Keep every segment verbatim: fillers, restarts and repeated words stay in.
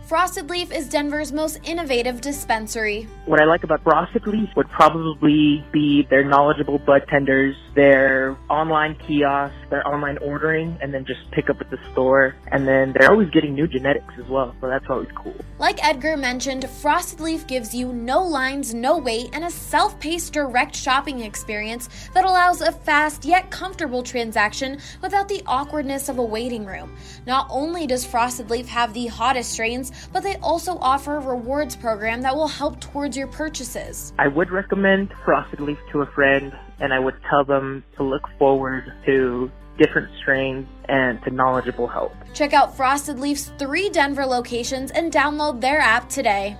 Frosted Leaf is Denver's most innovative dispensary. What I like about Frosted Leaf would probably be their knowledgeable bud tenders, their online kiosks, their online ordering, and then just pick up at the store. And then they're always getting new genetics as well, so that's always cool. Like Edgar mentioned, Frosted Leaf gives you no lines, no wait, and a self-paced direct shopping experience that allows a fast yet comfortable transaction without the awkwardness of a waiting room. Not only does Frosted Leaf have the hottest strains, but they also offer a rewards program that will help towards your purchases. I would recommend Frosted Leaf to a friend, and I would tell them to look forward to different strains and to knowledgeable help. Check out Frosted Leaf's three Denver locations and download their app today.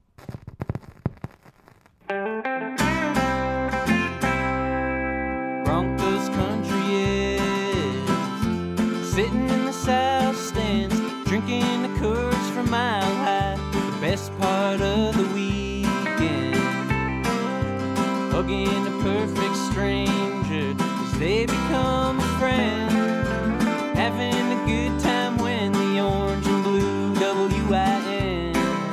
Broncos country is sitting in the south stands, drinking the Coors from Mile High. The best part of the weekend, hugging a perfect stranger as they become a friend, having a good time when the orange and blue W I N,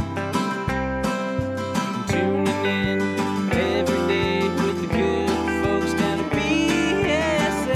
tuning in every day with the good folks down at B S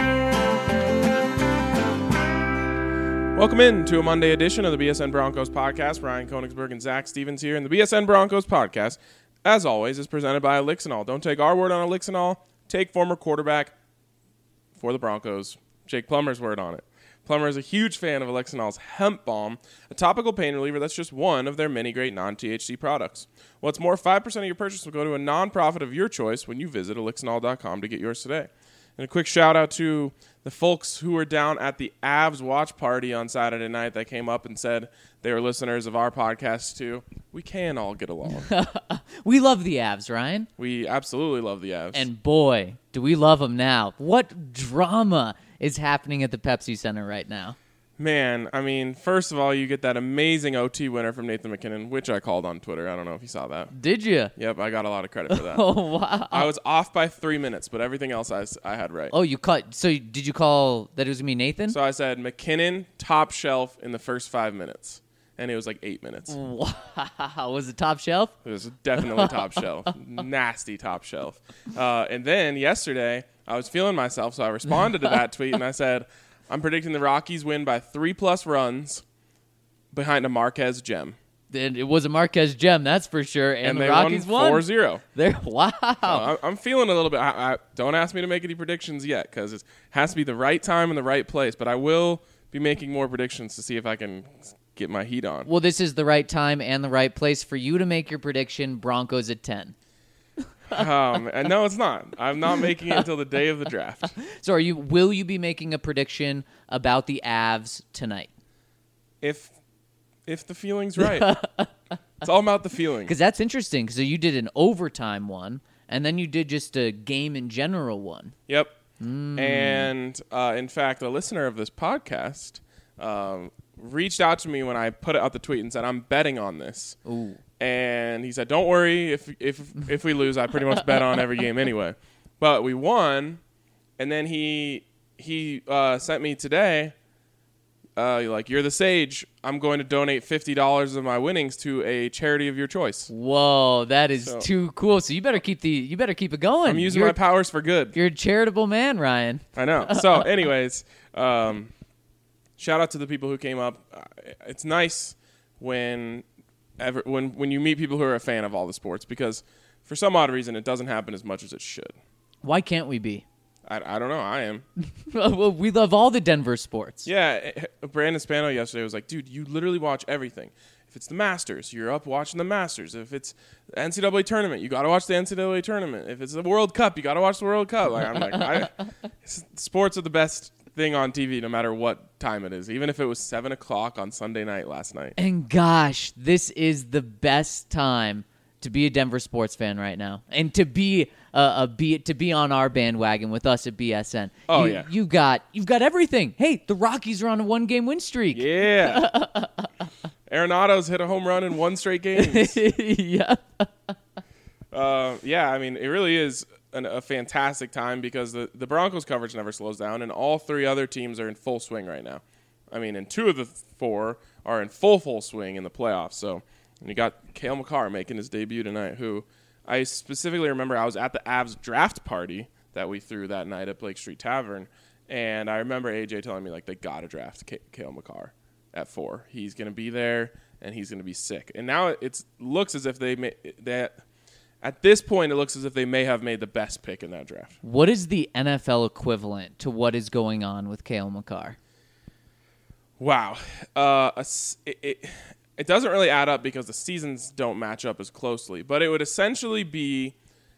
N. Welcome in to a Monday edition of the B S N Broncos podcast. Ryan Koenigsberg and Zach Stevens here, and the B S N Broncos podcast, as always, is presented by Elixinol. Don't take our word on Elixinol. Take former quarterback for the Broncos, Jake Plummer's word on it. Plummer is a huge fan of Elixinol's Hemp Balm, a topical pain reliever that's just one of their many great non-T H C products. What's more, five percent of your purchase will go to a nonprofit of your choice when you visit elixinol dot com to get yours today. And a quick shout out to the folks who were down at the Avs watch party on Saturday night that came up and said they were listeners of our podcast too. We can all get along. We love the Avs, Ryan. We absolutely love the Avs. And boy, do we love them now. What drama is happening at the Pepsi Center right now? Man, I mean, first of all, you get that amazing O T winner from Nathan McKinnon, which I called on Twitter. I don't know if you saw that. Did you? Yep, I got a lot of credit for that. Oh, wow. I was off by three minutes, but everything else I, I had right. Oh, you cut. So did you call that it was going to be Nathan? So I said McKinnon, top shelf in the first five minutes. And it was like eight minutes. Wow. Was it top shelf? It was definitely top shelf. Nasty top shelf. Uh, and then yesterday, I was feeling myself, so I responded to that tweet, and I said, I'm predicting the Rockies win by three-plus runs behind a Marquez gem. And it was a Marquez gem, that's for sure. And, And the they Rockies won won. four zero. They're, wow. So I- I'm feeling a little bit. I, I, don't ask me to make any predictions yet because it has to be the right time and the right place. But I will be making more predictions to see if I can get my heat on. Well, this is the right time and the right place for you to make your prediction, Broncos at ten. um, and no, it's not. I'm not making it until the day of the draft. So are you? Will you be making a prediction about the Avs tonight? If if the feeling's right. It's all about the feeling. Because that's interesting. Because you did an overtime one, and then you did just a game in general one. Yep. Mm. And uh, in fact, a listener of this podcast um, reached out to me when I put out the tweet and said, I'm betting on this. Ooh. And he said, don't worry, if if if we lose, I pretty much bet on every game anyway. But we won, and then he he uh, sent me today, uh, like, you're the sage. I'm going to donate fifty dollars of my winnings to a charity of your choice. Whoa, that is So- too cool. So you better keep the you better keep it going. I'm using you're, my powers for good. You're a charitable man, Ryan. I know. So anyways, um, shout out to the people who came up. Uh, It's nice when ever when when you meet people who are a fan of all the sports, because for some odd reason it doesn't happen as much as it should. Why can't we be? I, I don't know. I am. Well, we love all the Denver sports. Yeah. eh, Brandon Spano yesterday was like, dude, you literally watch everything. If it's the Masters, you're up watching the Masters. If it's the N C double A tournament, you got to watch the N C double A tournament. If it's the World Cup, you got to watch the World Cup. Like, I'm like, I, sports are the best thing on T V no matter what time it is, even if it was seven o'clock on Sunday night last night. And gosh, this is the best time to be a Denver sports fan right now, and to be uh, a be to be on our bandwagon with us at B S N. Oh, you, yeah. you got you've got everything. Hey, the Rockies are on a one game win streak. Yeah. Arenado's hit a home run in one straight game. Yeah. Uh, yeah, I mean, it really is an, a fantastic time because the, the Broncos coverage never slows down, and all three other teams are in full swing right now. I mean, in two of the four are in full, full swing in the playoffs. So and you got Cale Makar making his debut tonight, who I specifically remember I was at the Avs draft party that we threw that night at Blake Street Tavern, and I remember A J telling me, like, they got to draft K- Cale Makar at four. He's going to be there, and he's going to be sick. And now it looks as if they may, that at this point, it looks as if they may have made the best pick in that draft. What is the N F L equivalent to what is going on with Cale Makar? Wow. Uh, a s it, it, it doesn't really add up because the seasons don't match up as closely, but it would essentially be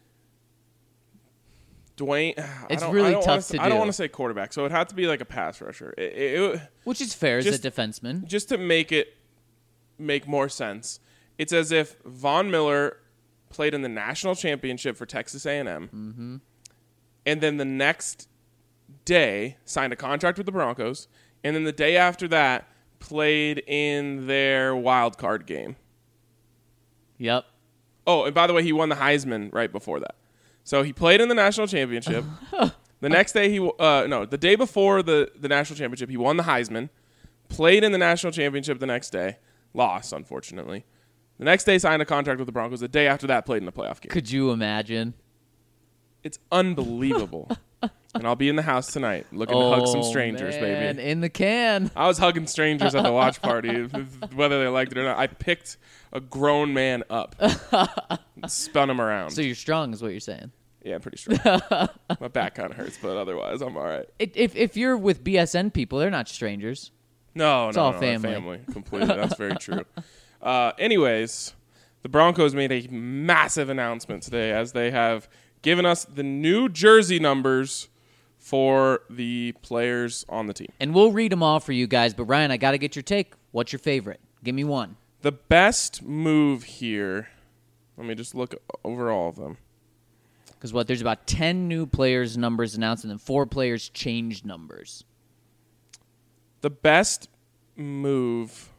Dwayne. It's I don't, really I don't tough wanna, to I don't do. want to say quarterback, so it had to be like a pass rusher. It, it, it, Which is fair as Just- a defenseman. just to make it make more sense, it's as if Von Miller played in the national championship for Texas A and M, mm-hmm. and then the next day signed a contract with the Broncos, and then the day after that played in their wild card game. Yep. Oh, and by the way, he won the Heisman right before that. So he played in the national championship. The next day, he uh, no, the day before the, the national championship, he won the Heisman, played in the national championship the next day, lost, unfortunately. The next day, signed a contract with the Broncos. The day after that, played in the playoff game. Could you imagine? It's unbelievable. And I'll be in the house tonight looking to hug some strangers, Oh, man, baby. in the can. I was hugging strangers at the watch party, whether they liked it or not. I picked a grown man up, and spun him around. So you're strong is what you're saying. Yeah, I'm pretty strong. My back kind of hurts, but otherwise, I'm all right. It, if if you're with B S N people, they're not strangers. No, It's no, all no, family. family. Completely. That's very true. Uh, anyways, the Broncos made a massive announcement today as they have given us the new jersey numbers for the players on the team. And we'll read them all for you guys. But Ryan, I got to get your take. What's your favorite? Give me one. The best move here, let me just look over all of them. Because what? There's about ten new players' numbers announced, and then four players changed numbers. The best move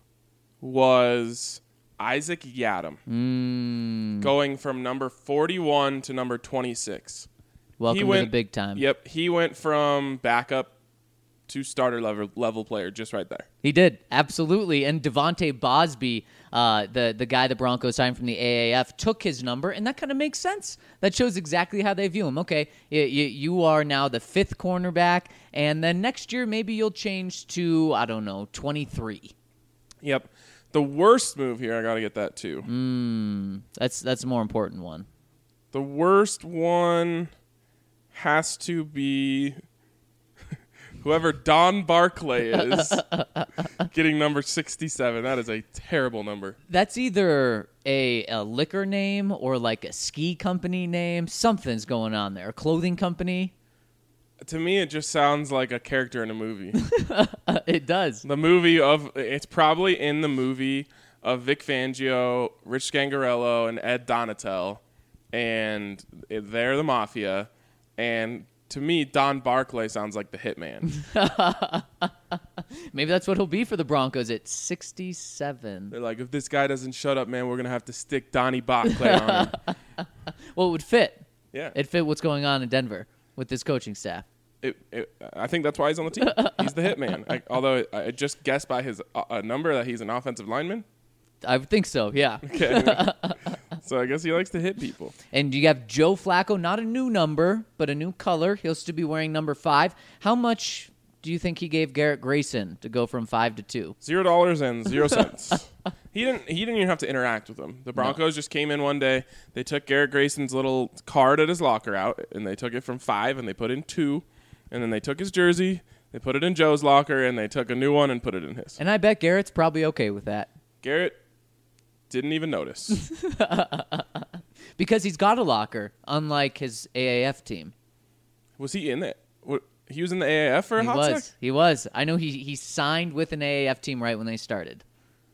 was Isaac Yadam Mm, going from number forty-one to number twenty-six. welcome He to went- the big time. Yep, he went from backup to starter level level player just right there. He did, absolutely. And Devontae Bosby, uh, the, the guy the Broncos signed from the A A F, took his number, and that kind of makes sense. That shows exactly how they view him. Okay, you, you, you are now the fifth cornerback, and then next year maybe you'll change to, I don't know, twenty-three. Yep. The worst move here, I got to get that too. Mm, that's, that's a more important one. The worst one has to be whoever Don Barclay is getting number sixty-seven. That is a terrible number. That's either a, a liquor name or like a ski company name. Something's going on there. A clothing company. To me, it just sounds like a character in a movie. It does. The movie of it's probably in the movie of Vic Fangio, Rich Scangarello, and Ed Donatel, and they're the mafia. And to me, Don Barclay sounds like the hitman. Maybe that's what he'll be for the Broncos at sixty-seven. They're like, if this guy doesn't shut up, man, we're gonna have to stick Donnie Barclay on him. Well, it would fit. Yeah, It fit what's going on in Denver with this coaching staff. it, it, I think that's why he's on the team. He's the hitman. I, although I just guessed by his uh, number that he's an offensive lineman. I would think so, yeah. Okay. So I guess he likes to hit people. And you have Joe Flacco, not a new number, but a new color. He'll still be wearing number five. How much do you think he gave Garrett Grayson to go from five to two? Zero dollars and zero cents. He didn't. He didn't even have to interact with them. The Broncos just came in one day. They took Garrett Grayson's little card at his locker out, and they took it from five, and they put in two, and then they took his jersey, they put it in Joe's locker, and they took a new one and put it in his. And I bet Garrett's probably okay with that. Garrett didn't even notice. Because he's got a locker, unlike his A A F team. Was he in it? What, he was in the A A F for a He hot was. sec? He was. I know he he signed with an A A F team right when they started.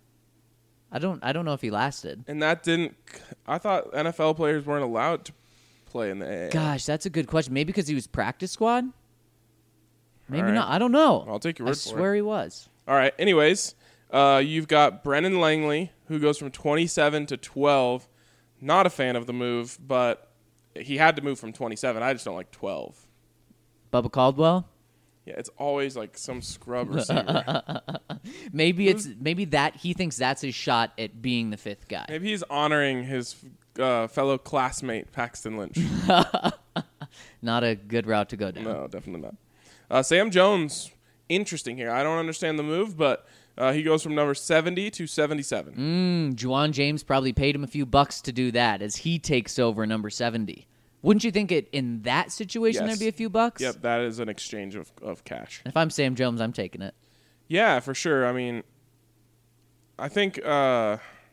I don't I don't know if he lasted. And that didn't. I thought N F L players weren't allowed to play in the A A F. Gosh, that's a good question. Maybe because he was practice squad? Maybe All right. not. I don't know. I'll take your I word for it. swear he was. All right. Anyways, uh, you've got Brennan Langley, who goes from twenty-seven to twelve. Not a fan of the move, but he had to move from twenty-seven. I just don't like twelve. Bubba Caldwell? Yeah, it's always like some scrub receiver. Maybe it's maybe that he thinks that's his shot at being the fifth guy. Maybe he's honoring his uh, fellow classmate Paxton Lynch. Not a good route to go down. No, definitely not. Uh, Sam Jones, interesting here. I don't understand the move, but uh, he goes from number seventy to seventy-seven. Mm, Juwan James probably paid him a few bucks to do that as he takes over number seventy. Wouldn't you think it in that situation Yes. there'd be a few bucks? Yep, that is an exchange of, of cash. If I'm Sam Jones, I'm taking it. Yeah, for sure. I mean, I think uh,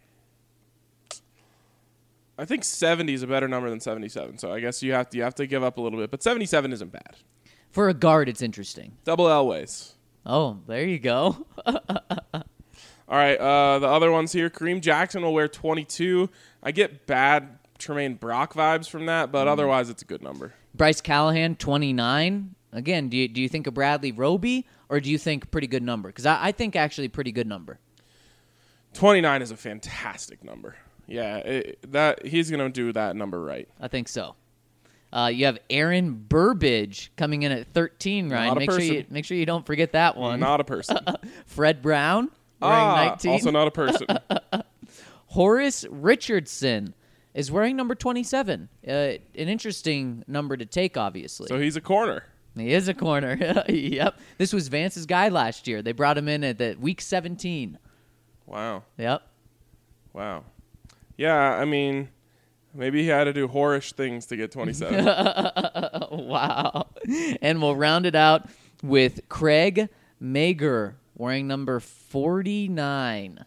I think seventy is a better number than seventy-seven. So I guess you have to you have to give up a little bit, but seventy-seven isn't bad. For a guard, it's interesting. Double Elways. Oh, there you go. All right, uh, the other ones here. Kareem Jackson will wear twenty-two. I get bad Tremaine Brock vibes from that, but mm. otherwise it's a good number. Bryce Callahan, twenty-nine. Again, do you, do you think of Bradley Roby, or do you think pretty good number? Because I, I think actually pretty good number. twenty-nine is a fantastic number. Yeah, it, that he's going to do that number right. I think so. Uh, you have Aaron Burbidge coming in at thirteen, Ryan. Not a make person. sure you make sure you don't forget that one. Not a person. Fred Brown wearing ah, nineteen. Also not a person. Horace Richardson is wearing number twenty-seven. Uh, an interesting number to take, obviously. So he's a corner. He is a corner. Yep. This was Vance's guy last year. They brought him in at the week seventeen. Wow. Yep. Wow. Yeah, I mean, maybe he had to do whorish things to get twenty-seven. Wow. And we'll round it out with Craig Mager wearing number forty-nine.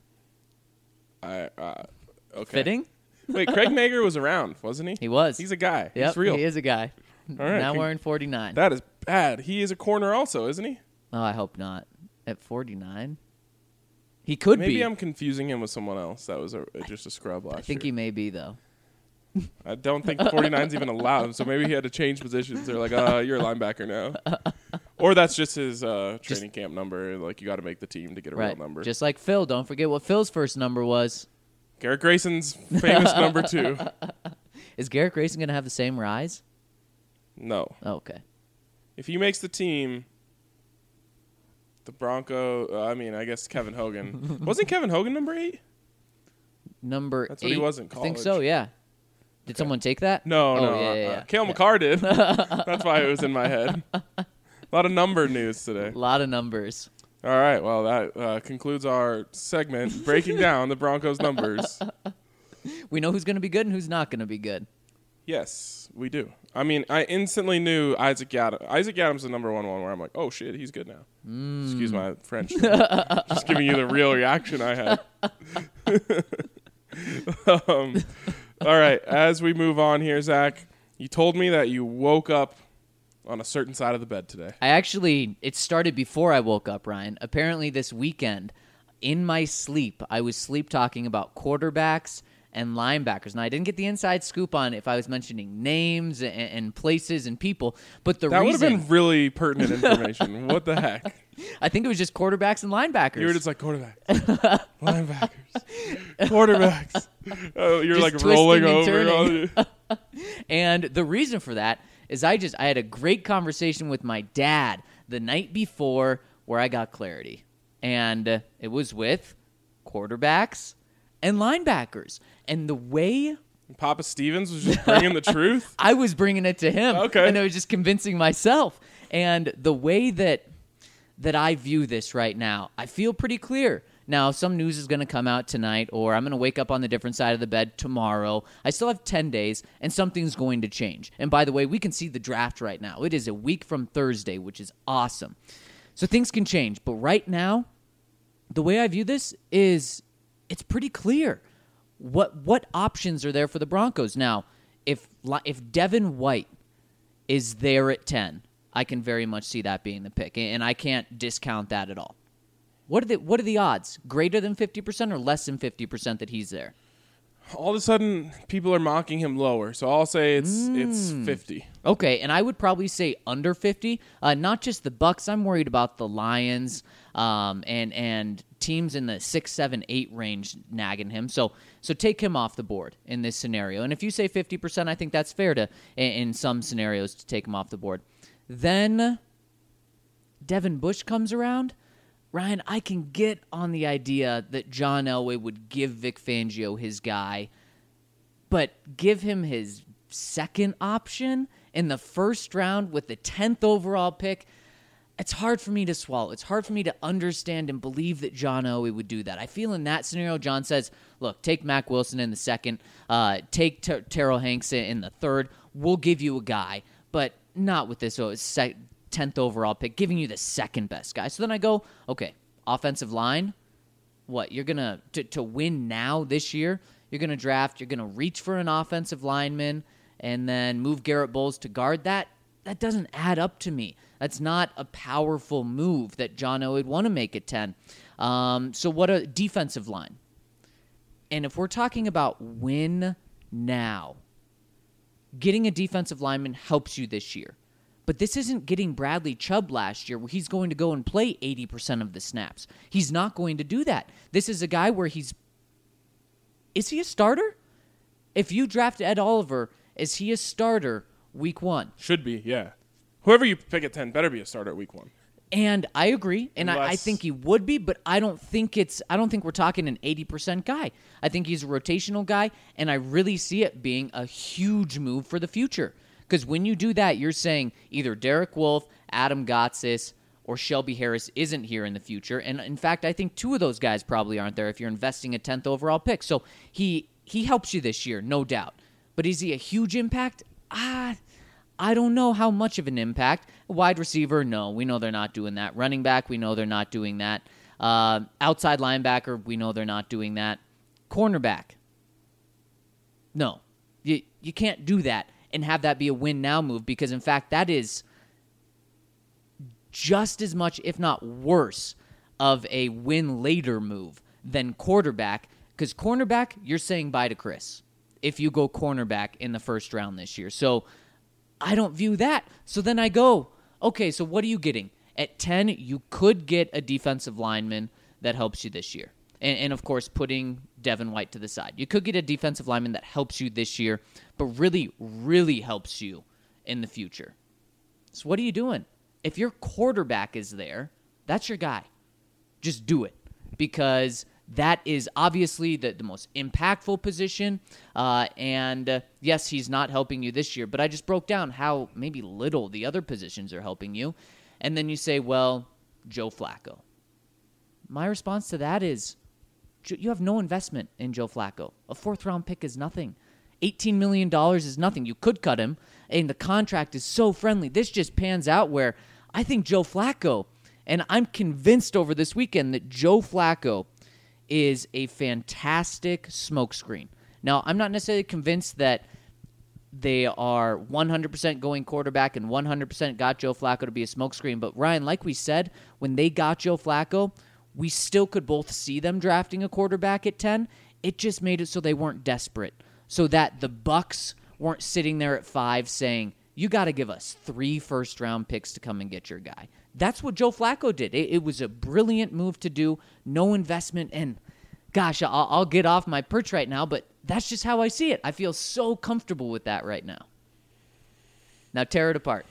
I, uh, okay. Fitting? Wait, Craig Mager was around, wasn't he? He was. He's a guy. Yep, He's real. he is a guy. All right. Now Can- wearing forty-nine. That is bad. He is a corner also, isn't he? Oh, I hope not. At forty-nine? He could Maybe be. I'm confusing him with someone else that was a, just a scrub last I think year. he may be, though. I don't think forty-nine's even allowed, so maybe he had to change positions. They're like, uh, you're a linebacker now. Or that's just his uh, training Just- camp number. Like, you got to make the team to get a Right. real number. Just like Phil. Don't forget what Phil's first number was. Garrett Grayson's famous number two. Is Garrett Grayson going to have the same rise? No. Oh, okay. If he makes the team, the Bronco, uh, I mean, I guess Kevin Hogan. Wasn't Kevin Hogan number eight? Number That's eight. what he was in I think college. so, yeah. Did someone take that? No, oh, no. Yeah, uh, yeah, uh, yeah. Cale McCarr did. That's why it was in my head. A lot of number news today. A lot of numbers. All right, well, that uh, concludes our segment breaking down the Broncos' numbers. We know who's going to be good and who's not going to be good. Yes, we do. I mean, I instantly knew Isaac Adams. Isaac Adams is the number one one where I'm like, oh, shit, he's good now. Mm. Excuse my French. Just giving you the real reaction I had. um, all right, as we move on here, Zach, you told me that you woke up on a certain side of the bed today. I actually, it started before I woke up, Ryan. Apparently this weekend, in my sleep, I was sleep talking about quarterbacks and linebackers. Now, I didn't get the inside scoop on if I was mentioning names and, and places and people, but the That would reason... have been really pertinent information. What the heck? I think it was just quarterbacks and linebackers. You were just like, quarterbacks, linebackers, quarterbacks. Oh, you're Just like rolling twisting over. and all the- And the reason for that is I just I had a great conversation with my dad the night before where I got clarity. And uh, it was with quarterbacks and linebackers. And the way Papa Stevens was just bringing the truth. I was bringing it to him, Okay. and I was just convincing myself. And the way that that I view this right now, I feel pretty clear. Now, some news is going to come out tonight, or I'm going to wake up on the different side of the bed tomorrow. I still have ten days, and something's going to change. And by the way, we can see the draft right now. It is a week from Thursday, which is awesome. So things can change. But right now, the way I view this is it's pretty clear. What what options are there for the Broncos? Now, if if Devin White is there at ten, I can very much see that being the pick, and I can't discount that at all. What are the what are the odds? Greater than fifty percent or less than fifty percent that he's there? All of a sudden, people are mocking him lower, so I'll say it's Mm. it's fifty. Okay, and I would probably say under fifty. Uh, not just the Bucks. I'm worried about the Lions um, and and teams in the six, seven, eight range nagging him. So so take him off the board in this scenario. And if you say fifty percent, I think that's fair to in, in some scenarios to take him off the board. Then Devin Bush comes around, Ryan, I can get on the idea that John Elway would give Vic Fangio his guy, but give him his second option in the first round with the tenth overall pick. It's hard for me to swallow. It's hard for me to understand and believe that John Elway would do that. I feel in that scenario, John says, look, take Mack Wilson in the second, uh, take Ter- Terrell Hanks in the third. We'll give you a guy, but not with this oh, sec- tenth overall pick, giving you the second best guy. So then I go, okay, offensive line, what, you're going to, to win now this year, you're going to draft, you're going to reach for an offensive lineman and then move Garrett Bowles to guard that? That doesn't add up to me. That's not a powerful move that John Elway would want to make at ten. Um, so what a defensive line. And if we're talking about win now, getting a defensive lineman helps you this year. But this isn't getting Bradley Chubb last year where he's going to go and play eighty percent of the snaps. He's not going to do that. This is a guy where he's... Is he a starter? If you draft Ed Oliver, is he a starter week one? Should be, yeah. Whoever you pick at ten better be a starter at week one. And I agree, and Unless... I, I think he would be, but I don't think it's. I don't think we're talking an eighty percent guy. I think he's a rotational guy, and I really see it being a huge move for the future. Because when you do that, you're saying either Derek Wolfe, Adam Gotsis, or Shelby Harris isn't here in the future. And in fact, I think two of those guys probably aren't there if you're investing a tenth overall pick. So he he helps you this year, no doubt. But is he a huge impact? Ah. I don't know how much of an impact. Wide receiver, no. We know they're not doing that. Running back, we know they're not doing that. Uh, outside linebacker, we know they're not doing that. Cornerback, no. You, you can't do that and have that be a win-now move because, in fact, that is just as much, if not worse, of a win-later move than quarterback because cornerback, you're saying bye to Chris if you go cornerback in the first round this year. So I don't view that. So then I go, okay, so what are you getting? At ten, you could get a defensive lineman that helps you this year. And, and, of course, putting Devin White to the side. You could get a defensive lineman that helps you this year, but really, really helps you in the future. So what are you doing? If your quarterback is there, that's your guy. Just do it. Because that is obviously the, the most impactful position. Uh, and, uh, yes, he's not helping you this year. But I just broke down how maybe little the other positions are helping you. And then you say, well, Joe Flacco. My response to that is you have no investment in Joe Flacco. A fourth-round pick is nothing. eighteen million dollars is nothing. You could cut him, and the contract is so friendly. This just pans out where I think Joe Flacco, and I'm convinced over this weekend that Joe Flacco is a fantastic smokescreen. Now, I'm not necessarily convinced that they are one hundred percent going quarterback and one hundred percent got Joe Flacco to be a smokescreen. But, Ryan, like we said, when they got Joe Flacco, we still could both see them drafting a quarterback at ten. It just made it so they weren't desperate, so that the Bucs weren't sitting there at five saying, you got to give us three first-round picks to come and get your guy. That's what Joe Flacco did. It, it was a brilliant move to do, no investment, and gosh, I'll, I'll get off my perch right now, but that's just how I see it. I feel so comfortable with that right now. Now tear it apart.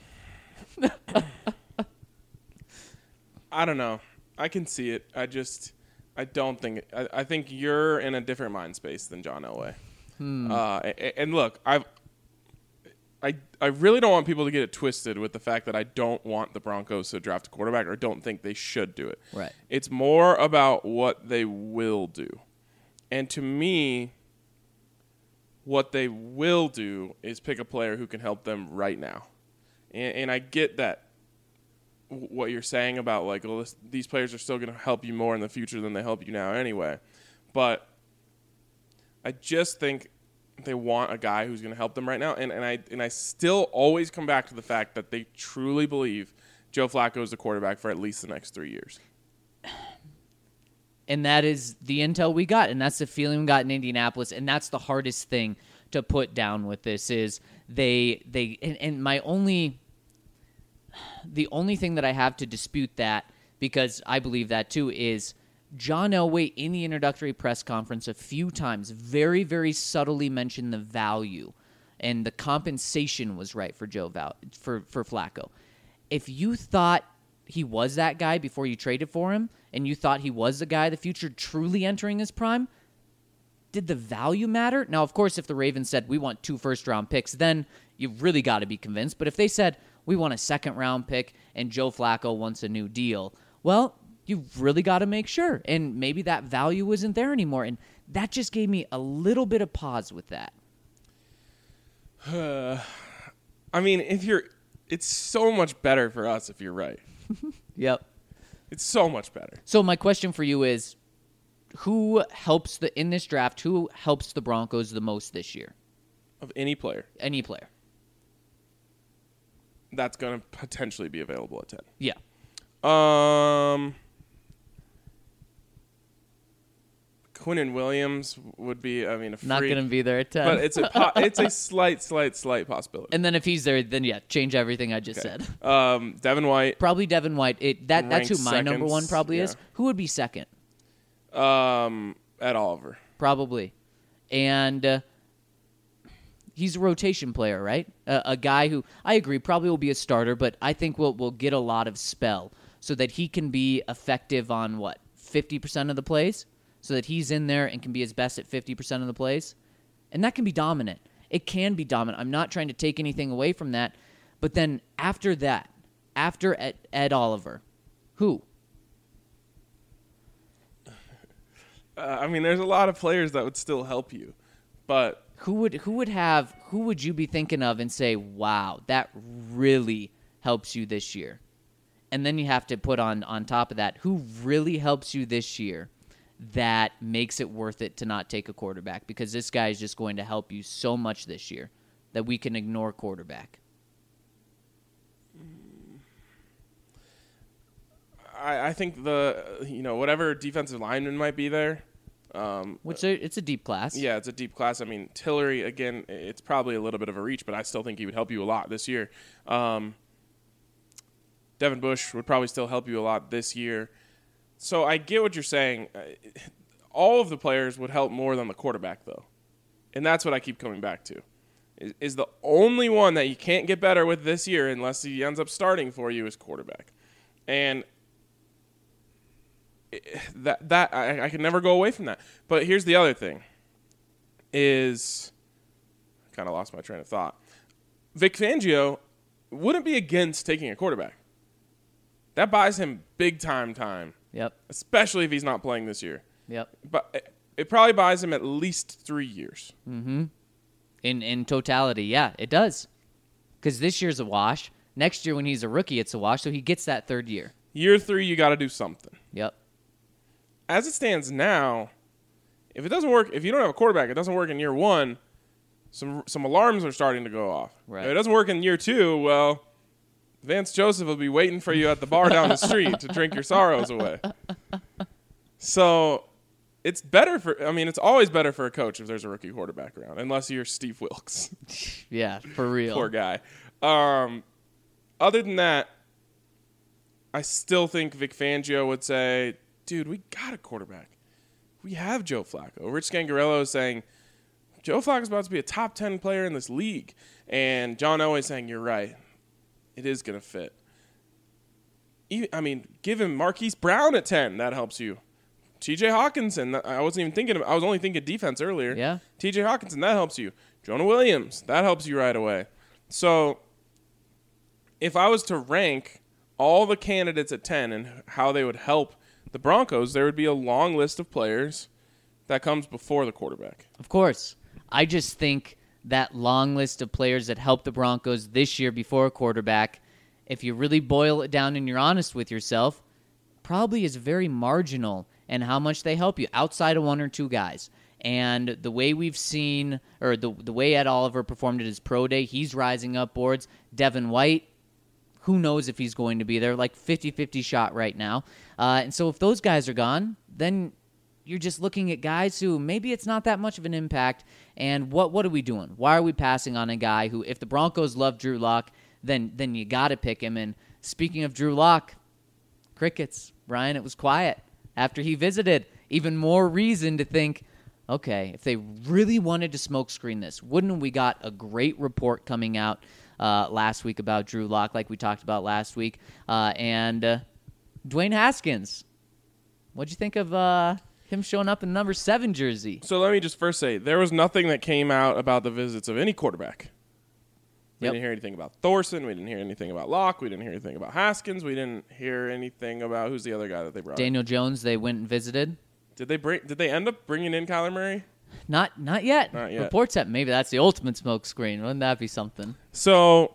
I don't know. I can see it. I just, I don't think, I, I think you're in a different mind space than John Elway. Hmm. Uh, and, and look, I've, I, I really don't want people to get it twisted with the fact that I don't want the Broncos to draft a quarterback or don't think they should do it. Right. It's more about what they will do. And to me, what they will do is pick a player who can help them right now. And, and I get that what you're saying about, like, well, this, these players are still going to help you more in the future than they help you now anyway. But I just think they want a guy who's going to help them right now. And, and I and I still always come back to the fact that they truly believe Joe Flacco is the quarterback for at least the next three years. And that is the intel we got, and that's the feeling we got in Indianapolis, and that's the hardest thing to put down with this is they they and, and my only the only thing that I have to dispute that, because I believe that too, is John Elway in the introductory press conference a few times very, very subtly mentioned the value and the compensation was right for Joe Val- for, for Flacco. If you thought he was that guy before you traded for him, and you thought he was the guy of the future truly entering his prime, did the value matter? Now, of course, if the Ravens said, we want two first-round picks, then you've really got to be convinced. But if they said, we want a second-round pick and Joe Flacco wants a new deal, well, you've really got to make sure. And maybe that value isn't there anymore. And that just gave me a little bit of pause with that. Uh, I mean, if you're, it's so much better for us if you're right. Yep. It's so much better. So my question for you is, who helps the in this draft, who helps the Broncos the most this year? Of any player. Any player. That's going to potentially be available at ten. Yeah. Um, Quinnen Williams would be, I mean, a free, Not going to be there at ten. but it's a po- it's a slight, slight, slight possibility. And then if he's there, then yeah, change everything I just Okay. said. Um, Devin White, Probably Devin White. It, that That's who Ranked my number seconds, one probably yeah. is. Who would be second? um, Ed Oliver. Probably. And uh, he's a rotation player, right? Uh, a guy who, I agree, probably will be a starter, but I think will will get a lot of spell so that he can be effective on, what, fifty percent of the plays? So that he's in there and can be his best at fifty percent of the plays? And that can be dominant. It can be dominant. I'm not trying to take anything away from that. But then after that, after Ed, Ed Oliver, who? Uh, I mean, there's a lot of players that would still help you, but Who would who would have who would you be thinking of and say, wow, that really helps you this year? And then you have to put on on top of that, who really helps you this year that makes it worth it to not take a quarterback, because this guy is just going to help you so much this year that we can ignore quarterback. I, I think the you know whatever defensive lineman might be there. Um, Which are, it's a deep class. Yeah, it's a deep class. I mean, Tillery, again, it's probably a little bit of a reach, but I still think he would help you a lot this year. Um, Devin Bush would probably still help you a lot this year. So I get what you're saying. All of the players would help more than the quarterback, though. And that's what I keep coming back to. Is, is the only one that you can't get better with this year unless he ends up starting for you is quarterback. And that that I, I can never go away from that. But here's the other thing is I kind of lost my train of thought. Vic Fangio wouldn't be against taking a quarterback. That buys him big time time. Yep. Especially if he's not playing this year. Yep. But it, it probably buys him at least three years. Mm-hmm. In in totality, yeah, it does. Because this year's a wash. Next year when he's a rookie, it's a wash, so he gets that third year. Year three, you got to do something. Yep. As it stands now, if it doesn't work, if you don't have a quarterback, it doesn't work in year one, some some alarms are starting to go off. Right. If it doesn't work in year two, well, Vance Joseph will be waiting for you at the bar down the street to drink your sorrows away. So it's better for, I mean, it's always better for a coach if there's a rookie quarterback around, unless you're Steve Wilkes. Yeah, for real. Poor guy. Um, other than that, I still think Vic Fangio would say, dude, we got a quarterback. We have Joe Flacco. Rich Scangarello is saying, Joe Flacco's about to be a top ten player in this league. And John Elway saying, you're right. It is going to fit. I mean, give him Marquise Brown at ten. That helps you. T J Hawkinson. I wasn't even thinking of, I was only thinking defense earlier. Yeah. T J Hawkinson, that helps you. Jonah Williams, that helps you right away. So if I was to rank all the candidates at ten and how they would help the Broncos, there would be a long list of players that comes before the quarterback. Of course. I just think that long list of players that help the Broncos this year before a quarterback, if you really boil it down and you're honest with yourself, probably is very marginal in how much they help you outside of one or two guys. And the way we've seen, or the the way Ed Oliver performed at his pro day, he's rising up boards. Devin White, who knows if he's going to be there, like fifty-fifty shot right now. Uh, and so if those guys are gone, then you're just looking at guys who maybe it's not that much of an impact. And what what are we doing? Why are we passing on a guy who, if the Broncos love Drew Lock, then then you got to pick him. And speaking of Drew Lock, crickets, Brian, it was quiet after he visited. Even more reason to think, okay, if they really wanted to smokescreen this, wouldn't we got a great report coming out uh, last week about Drew Lock, like we talked about last week. Uh, and uh, Dwayne Haskins, what'd you think of uh, him showing up in number seven jersey? So let me just first say, there was nothing that came out about the visits of any quarterback. We Yep. didn't hear anything about Thorson. We didn't hear anything about Locke. We didn't hear anything about Haskins. We didn't hear anything about who's the other guy that they brought. Daniel Jones, they went and visited. Did they bring? Did they end up bringing in Kyler Murray? Not not yet. Not yet. Reports that maybe that's the ultimate smoke screen. Wouldn't that be something? So,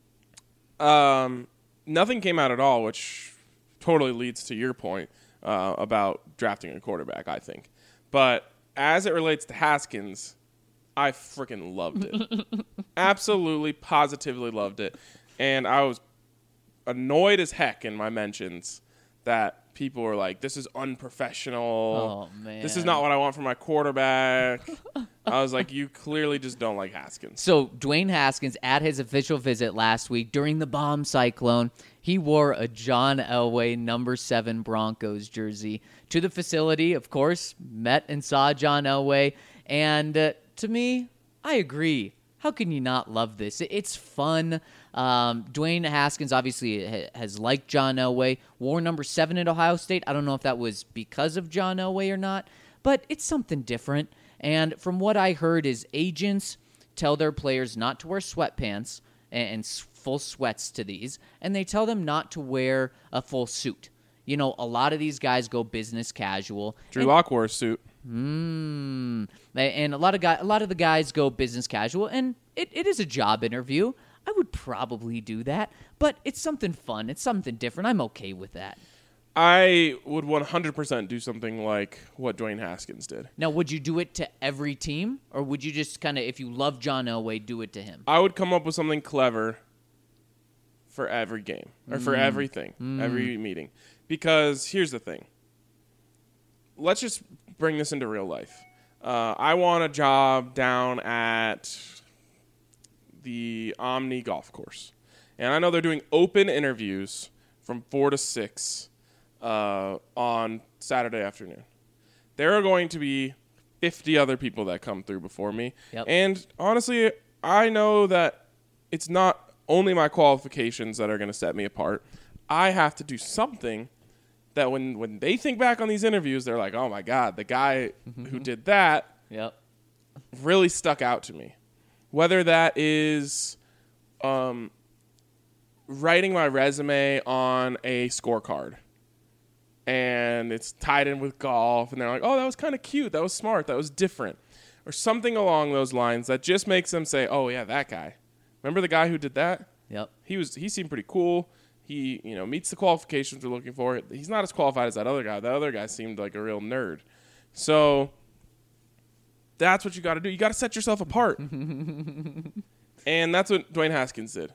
um, nothing came out at all, which totally leads to your point uh, about drafting a quarterback, I think. But as it relates to Haskins, I freaking loved it. Absolutely, positively loved it. And I was annoyed as heck in my mentions that people were like, this is unprofessional. Oh, man. This is not what I want from my quarterback. I was like, you clearly just don't like Haskins. So Dwayne Haskins, at his official visit last week during the bomb cyclone, he wore a John Elway number seven Broncos jersey to the facility. Of course, met and saw John Elway. And uh, to me, I agree. How can you not love this? It's fun. Um, Dwayne Haskins obviously ha- has liked John Elway, wore number seven at Ohio State. I don't know if that was because of John Elway or not, but it's something different. And from what I heard is agents tell their players not to wear sweatpants and, and s- full sweats to these, and they tell them not to wear a full suit. You know, a lot of these guys go business casual. Drew and- Lock wore a suit. Mm. And a lot of guy, a lot of the guys go business casual, and it, it is a job interview. I would probably do that, but it's something fun. It's something different. I'm okay with that. I would one hundred percent do something like what Dwayne Haskins did. Now, would you do it to every team, or would you just kind of, if you love John Elway, do it to him? I would come up with something clever for every game or for everything, every meeting. Because here's the thing. Let's just bring this into real life. Uh, I want a job down at the Omni Golf Course. And I know they're doing open interviews from four to six uh, on Saturday afternoon. There are going to be fifty other people that come through before me. Yep. And honestly, I know that it's not only my qualifications that are going to set me apart. I have to do something that when, when they think back on these interviews, they're like, oh, my God, the guy who did that Yep. really stuck out to me. Whether that is um, writing my resume on a scorecard and it's tied in with golf, and they're like, oh, that was kind of cute. That was smart. That was different. Or something along those lines that just makes them say, oh, yeah, that guy. Remember the guy who did that? Yep. He was. He seemed pretty cool. He, you know, meets the qualifications we're looking for. He's not as qualified as that other guy. That other guy seemed like a real nerd. So that's what you got to do. You got to set yourself apart. And that's what Dwayne Haskins did.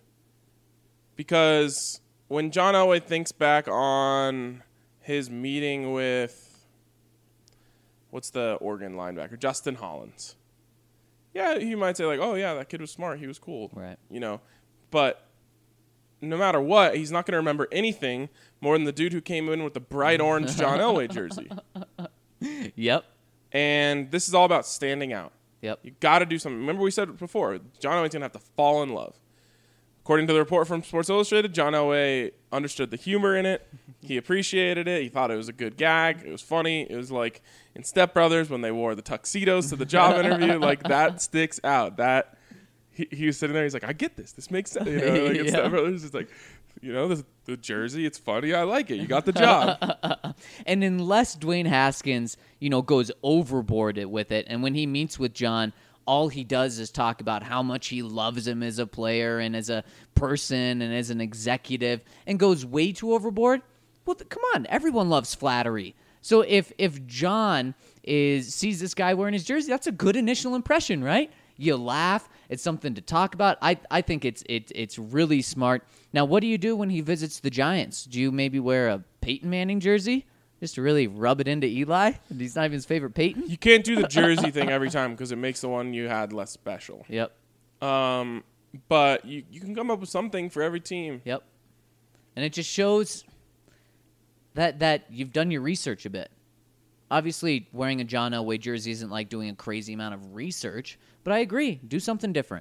Because when John Elway thinks back on his meeting with, what's the Oregon linebacker? Justin Hollins. Yeah, he might say like, oh, yeah, that kid was smart. He was cool. Right. You know, but no matter what, he's not going to remember anything more than the dude who came in with the bright orange John Elway jersey. Yep. And this is all about standing out. Yep. You got to do something. Remember we said before, John Elway's going to have to fall in love. According to the report from Sports Illustrated, John Elway understood the humor in it. He appreciated it. He thought it was a good gag. It was funny. It was like in Step Brothers when they wore the tuxedos to the job interview. Like, that sticks out. That he, he was sitting there. He's like, I get this. This makes sense. You know, like in Yeah. Step Brothers, it's like, you know, the, the jersey, it's funny. I like it. You got the job. And unless Dwayne Haskins, you know, goes overboard it with it, and when he meets with John, all he does is talk about how much he loves him as a player and as a person and as an executive, and goes way too overboard, well, th- come on, everyone loves flattery. So if if John is sees this guy wearing his jersey, that's a good initial impression, right? You laugh. It's something to talk about. I I think it's it, it's really smart. Now, what do you do when he visits the Giants? Do you maybe wear a Peyton Manning jersey just to really rub it into Eli? He's not even his favorite Peyton. You can't do the jersey thing every time because it makes the one you had less special. Yep. Um, but you, you can come up with something for every team. Yep. And it just shows that that you've done your research a bit. Obviously, wearing a John Elway jersey isn't like doing a crazy amount of research, but I agree. Do something different.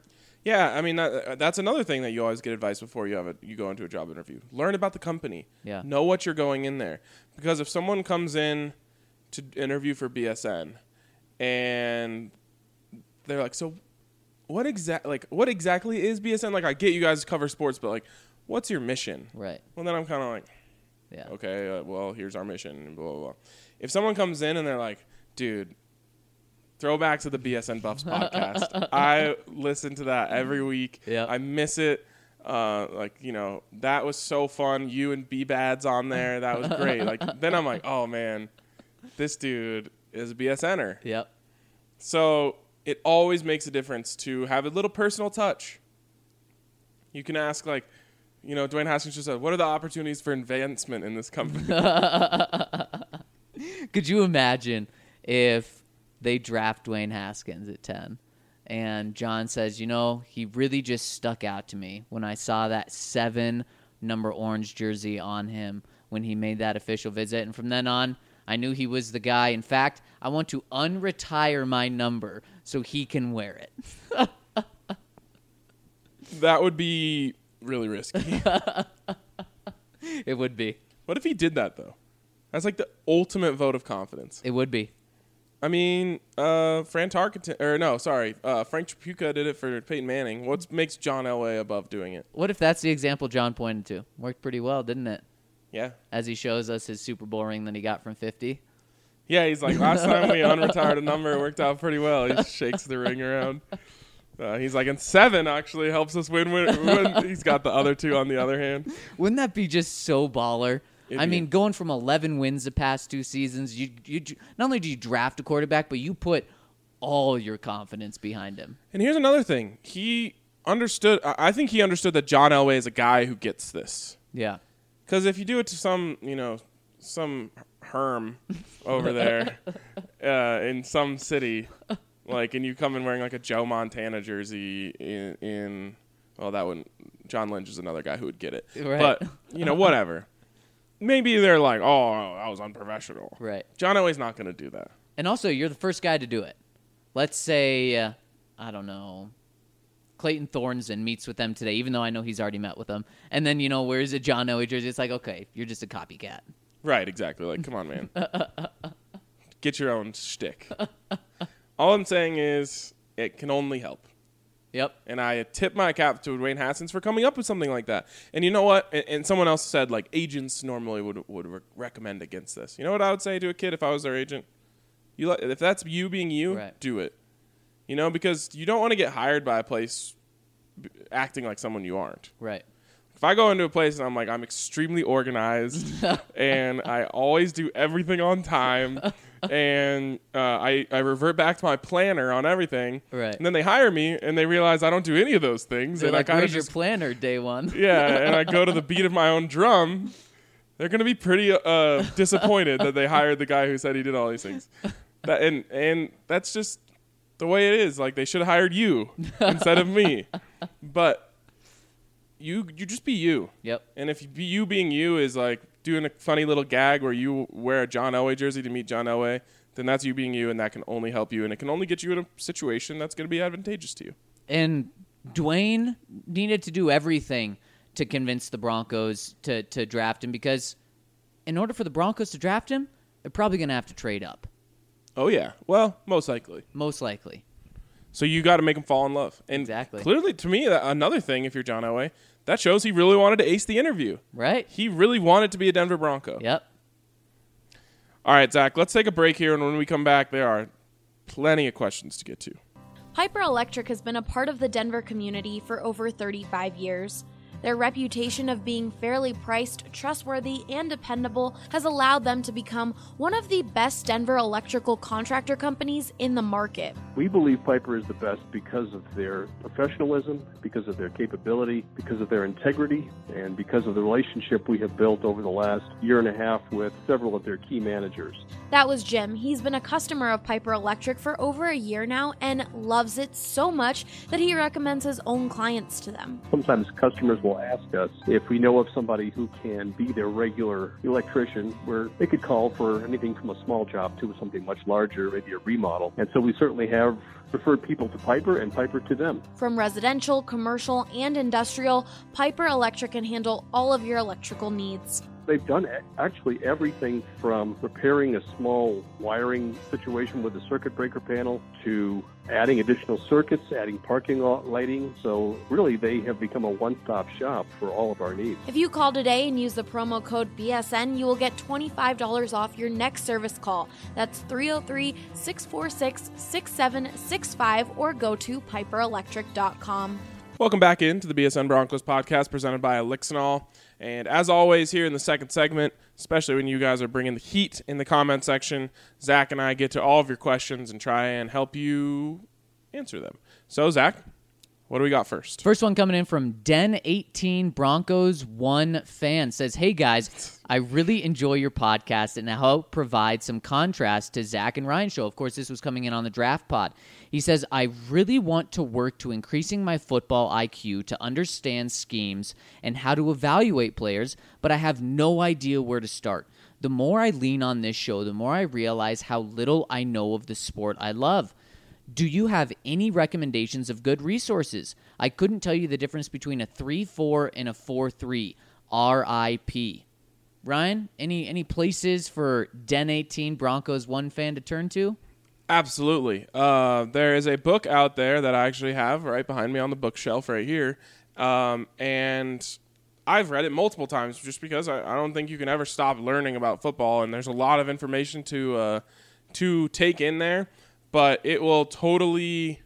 Yeah, I mean, that, that's another thing that you always get advice before you have a, you go into a job interview. Learn about the company. Yeah. Know what you're going in there. Because if someone comes in to interview for B S N and they're like, so what exact like what exactly is B S N? Like, I get you guys cover sports, but like, what's your mission? Right. Well, then I'm kind of like, Yeah. okay, uh, well, here's our mission, and blah, blah, blah. If someone comes in and they're like, dude, throwback to the B S N Buffs podcast. I listen to that every week. Yep. I miss it. Uh, like, you know, that was so fun. You and B-Bad's on there. That was great. Like, then I'm like, oh, man, this dude is a BSNer. Yep. So it always makes a difference to have a little personal touch. You can ask, like, you know, Dwayne Haskins just said, what are the opportunities for advancement in this company? Could you imagine if they draft Dwayne Haskins at ten and John says, you know, he really just stuck out to me when I saw that seven number orange jersey on him when he made that official visit. And from then on, I knew he was the guy. In fact, I want to unretire my number so he can wear it. That would be really risky. It would be. What if he did that, though? That's like the ultimate vote of confidence. It would be. I mean, uh, Fran Tarkenton, or no, sorry, uh, Frank Tripucka did it for Peyton Manning. What makes John Elway above doing it? What if that's the example John pointed to? Worked pretty well, didn't it? Yeah. As he shows us his Super Bowl ring that he got from fifty. Yeah, he's like, last time we unretired a number, it worked out pretty well. He shakes the ring around. Uh, he's like, and seven actually helps us win, win, win. He's got the other two on the other hand. Wouldn't that be just so baller? It'd I be. mean, going from eleven wins the past two seasons, you you not only do you draft a quarterback, but you put all your confidence behind him. And here's another thing. He understood, I I think he understood that John Elway is a guy who gets this. Yeah. Because if you do it to some, you know, some herm over there uh, in some city, like, and you come in wearing like a Joe Montana jersey in, in well, that wouldn't, John Lynch is another guy who would get it. Right. But, you know, whatever. Maybe they're like, oh, that was unprofessional. Right. John Elway's not going to do that. And also, you're the first guy to do it. Let's say, uh, I don't know, Clayton Thornton meets with them today, even though I know he's already met with them. And then, you know, wears a John Elway jersey. It's like, okay, you're just a copycat. Right, exactly. Like, come on, man. Get your own shtick. All I'm saying is it can only help. Yep. And I tip my cap to Dwayne Haskins for coming up with something like that. And you know what? And, and someone else said, like, agents normally would would re- recommend against this. You know what I would say to a kid if I was their agent? You let, if that's you being you, Right. do it. You know, because you don't want to get hired by a place b- acting like someone you aren't. Right. If I go into a place and I'm like, I'm extremely organized and I always do everything on time and uh, I, I revert back to my planner on everything. Right. And then they hire me and they realize I don't do any of those things. They're and like, I kind where's of your just, planner, day one? yeah, and I go to the beat of my own drum. They're going to be pretty uh, disappointed that they hired the guy who said he did all these things. That, and and that's just the way it is. Like, they should have hired you instead of me. But you you just be you. Yep. And if you, you being you is like doing a funny little gag where you wear a John Elway jersey to meet John Elway, then that's you being you, and that can only help you, and it can only get you in a situation that's going to be advantageous to you. And Dwayne needed to do everything to convince the Broncos to, to draft him because in order for the Broncos to draft him, they're probably going to have to trade up. Oh, yeah. Well, most likely. Most likely. So you got to make him fall in love. And Exactly. clearly, to me, that, another thing, if you're John Elway, that shows he really wanted to ace the interview. Right? He really wanted to be a Denver Bronco. Yep. All right, Zach, let's take a break here, and when we come back, there are plenty of questions to get to. Piper Electric has been a part of the Denver community for over thirty-five years. Their reputation of being fairly priced, trustworthy, and dependable has allowed them to become one of the best Denver electrical contractor companies in the market. We believe Piper is the best because of their professionalism, because of their capability, because of their integrity, and because of the relationship we have built over the last year and a half with several of their key managers. That was Jim. He's been a customer of Piper Electric for over a year now and loves it so much that he recommends his own clients to them. Sometimes customers will will ask us if we know of somebody who can be their regular electrician, where they could call for anything from a small job to something much larger, maybe a remodel. And so we certainly have referred people to Piper and Piper to them. From residential, commercial, and industrial, Piper Electric can handle all of your electrical needs. They've done actually everything from repairing a small wiring situation with a circuit breaker panel to adding additional circuits, adding parking lot lighting. So really, they have become a one-stop shop for all of our needs. If you call today and use the promo code B S N, you will get twenty-five dollars off your next service call. That's three oh three, six four six, six seven six five or go to piper electric dot com. Welcome back into the B S N Broncos podcast presented by Elixinol. And as always, here in the second segment, especially when you guys are bringing the heat in the comment section, Zach and I get to all of your questions and try and help you answer them. So, Zach, what do we got first? First one coming in from Den eighteen Broncos one fan says, "Hey guys, I really enjoy your podcast and I hope provide some contrast to Zach and Ryan's show." Of course, this was coming in on the draft pod. He says, "I really want to work to increasing my football I Q to understand schemes and how to evaluate players, but I have no idea where to start. The more I lean on this show, the more I realize how little I know of the sport I love. Do you have any recommendations of good resources? I couldn't tell you the difference between a three four and a four three. R I P Ryan, any any places for Den eighteen Broncos one fan to turn to? Absolutely. Uh, there is a book out there that I actually have right behind me on the bookshelf right here. Um, and I've read it multiple times just because I, I don't think you can ever stop learning about football. And there's a lot of information to uh, to take in there. But it will totally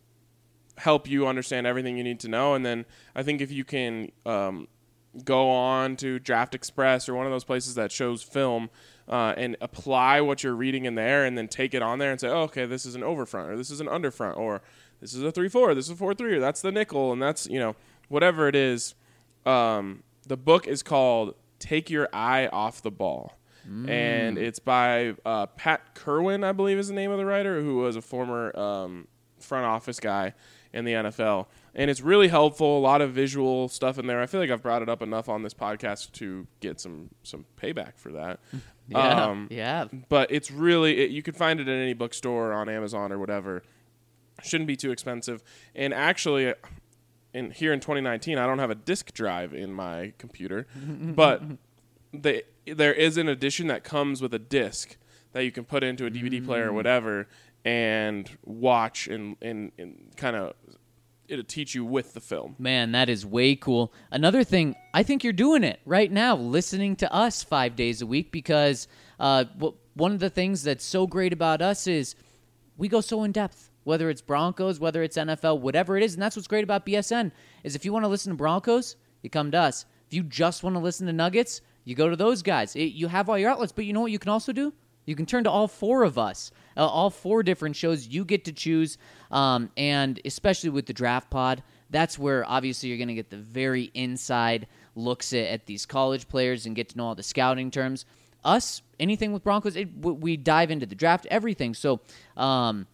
help you understand everything you need to know. And then I think if you can um, go on to Draft Express or one of those places that shows film uh, and apply what you're reading in there and then take it on there and say, oh, okay, this is an overfront or this is an underfront or this is a three four, this is a four three, or that's the nickel, and that's, you know, whatever it is. Um, the book is called Take Your Eye Off the Ball. Mm. And it's by uh, Pat Kerwin, I believe is the name of the writer, who was a former um, front office guy in the N F L. And it's really helpful, a lot of visual stuff in there. I feel like I've brought it up enough on this podcast to get some, some payback for that. Yeah, um, yeah. But it's really, it, you can find it in any bookstore or on Amazon or whatever. Shouldn't be too expensive. And actually, in here in twenty nineteen, I don't have a disk drive in my computer, but they... there is an edition that comes with a disc that you can put into a D V D player or whatever and watch and, and, and kind of it'll teach you with the film. Man, that is way cool. Another thing, I think you're doing it right now, listening to us five days a week because uh, w- one of the things that's so great about us is we go so in depth, whether it's Broncos, whether it's N F L, whatever it is. And that's what's great about B S N is if you want to listen to Broncos, you come to us. If you just want to listen to Nuggets, you go to those guys. It, you have all your outlets, but you know what you can also do? You can turn to all four of us, uh, all four different shows. You get to choose, um, and especially with the Draft Pod, that's where obviously you're going to get the very inside looks at, at these college players and get to know all the scouting terms. Us, anything with Broncos, it, we dive into the draft, everything. So um,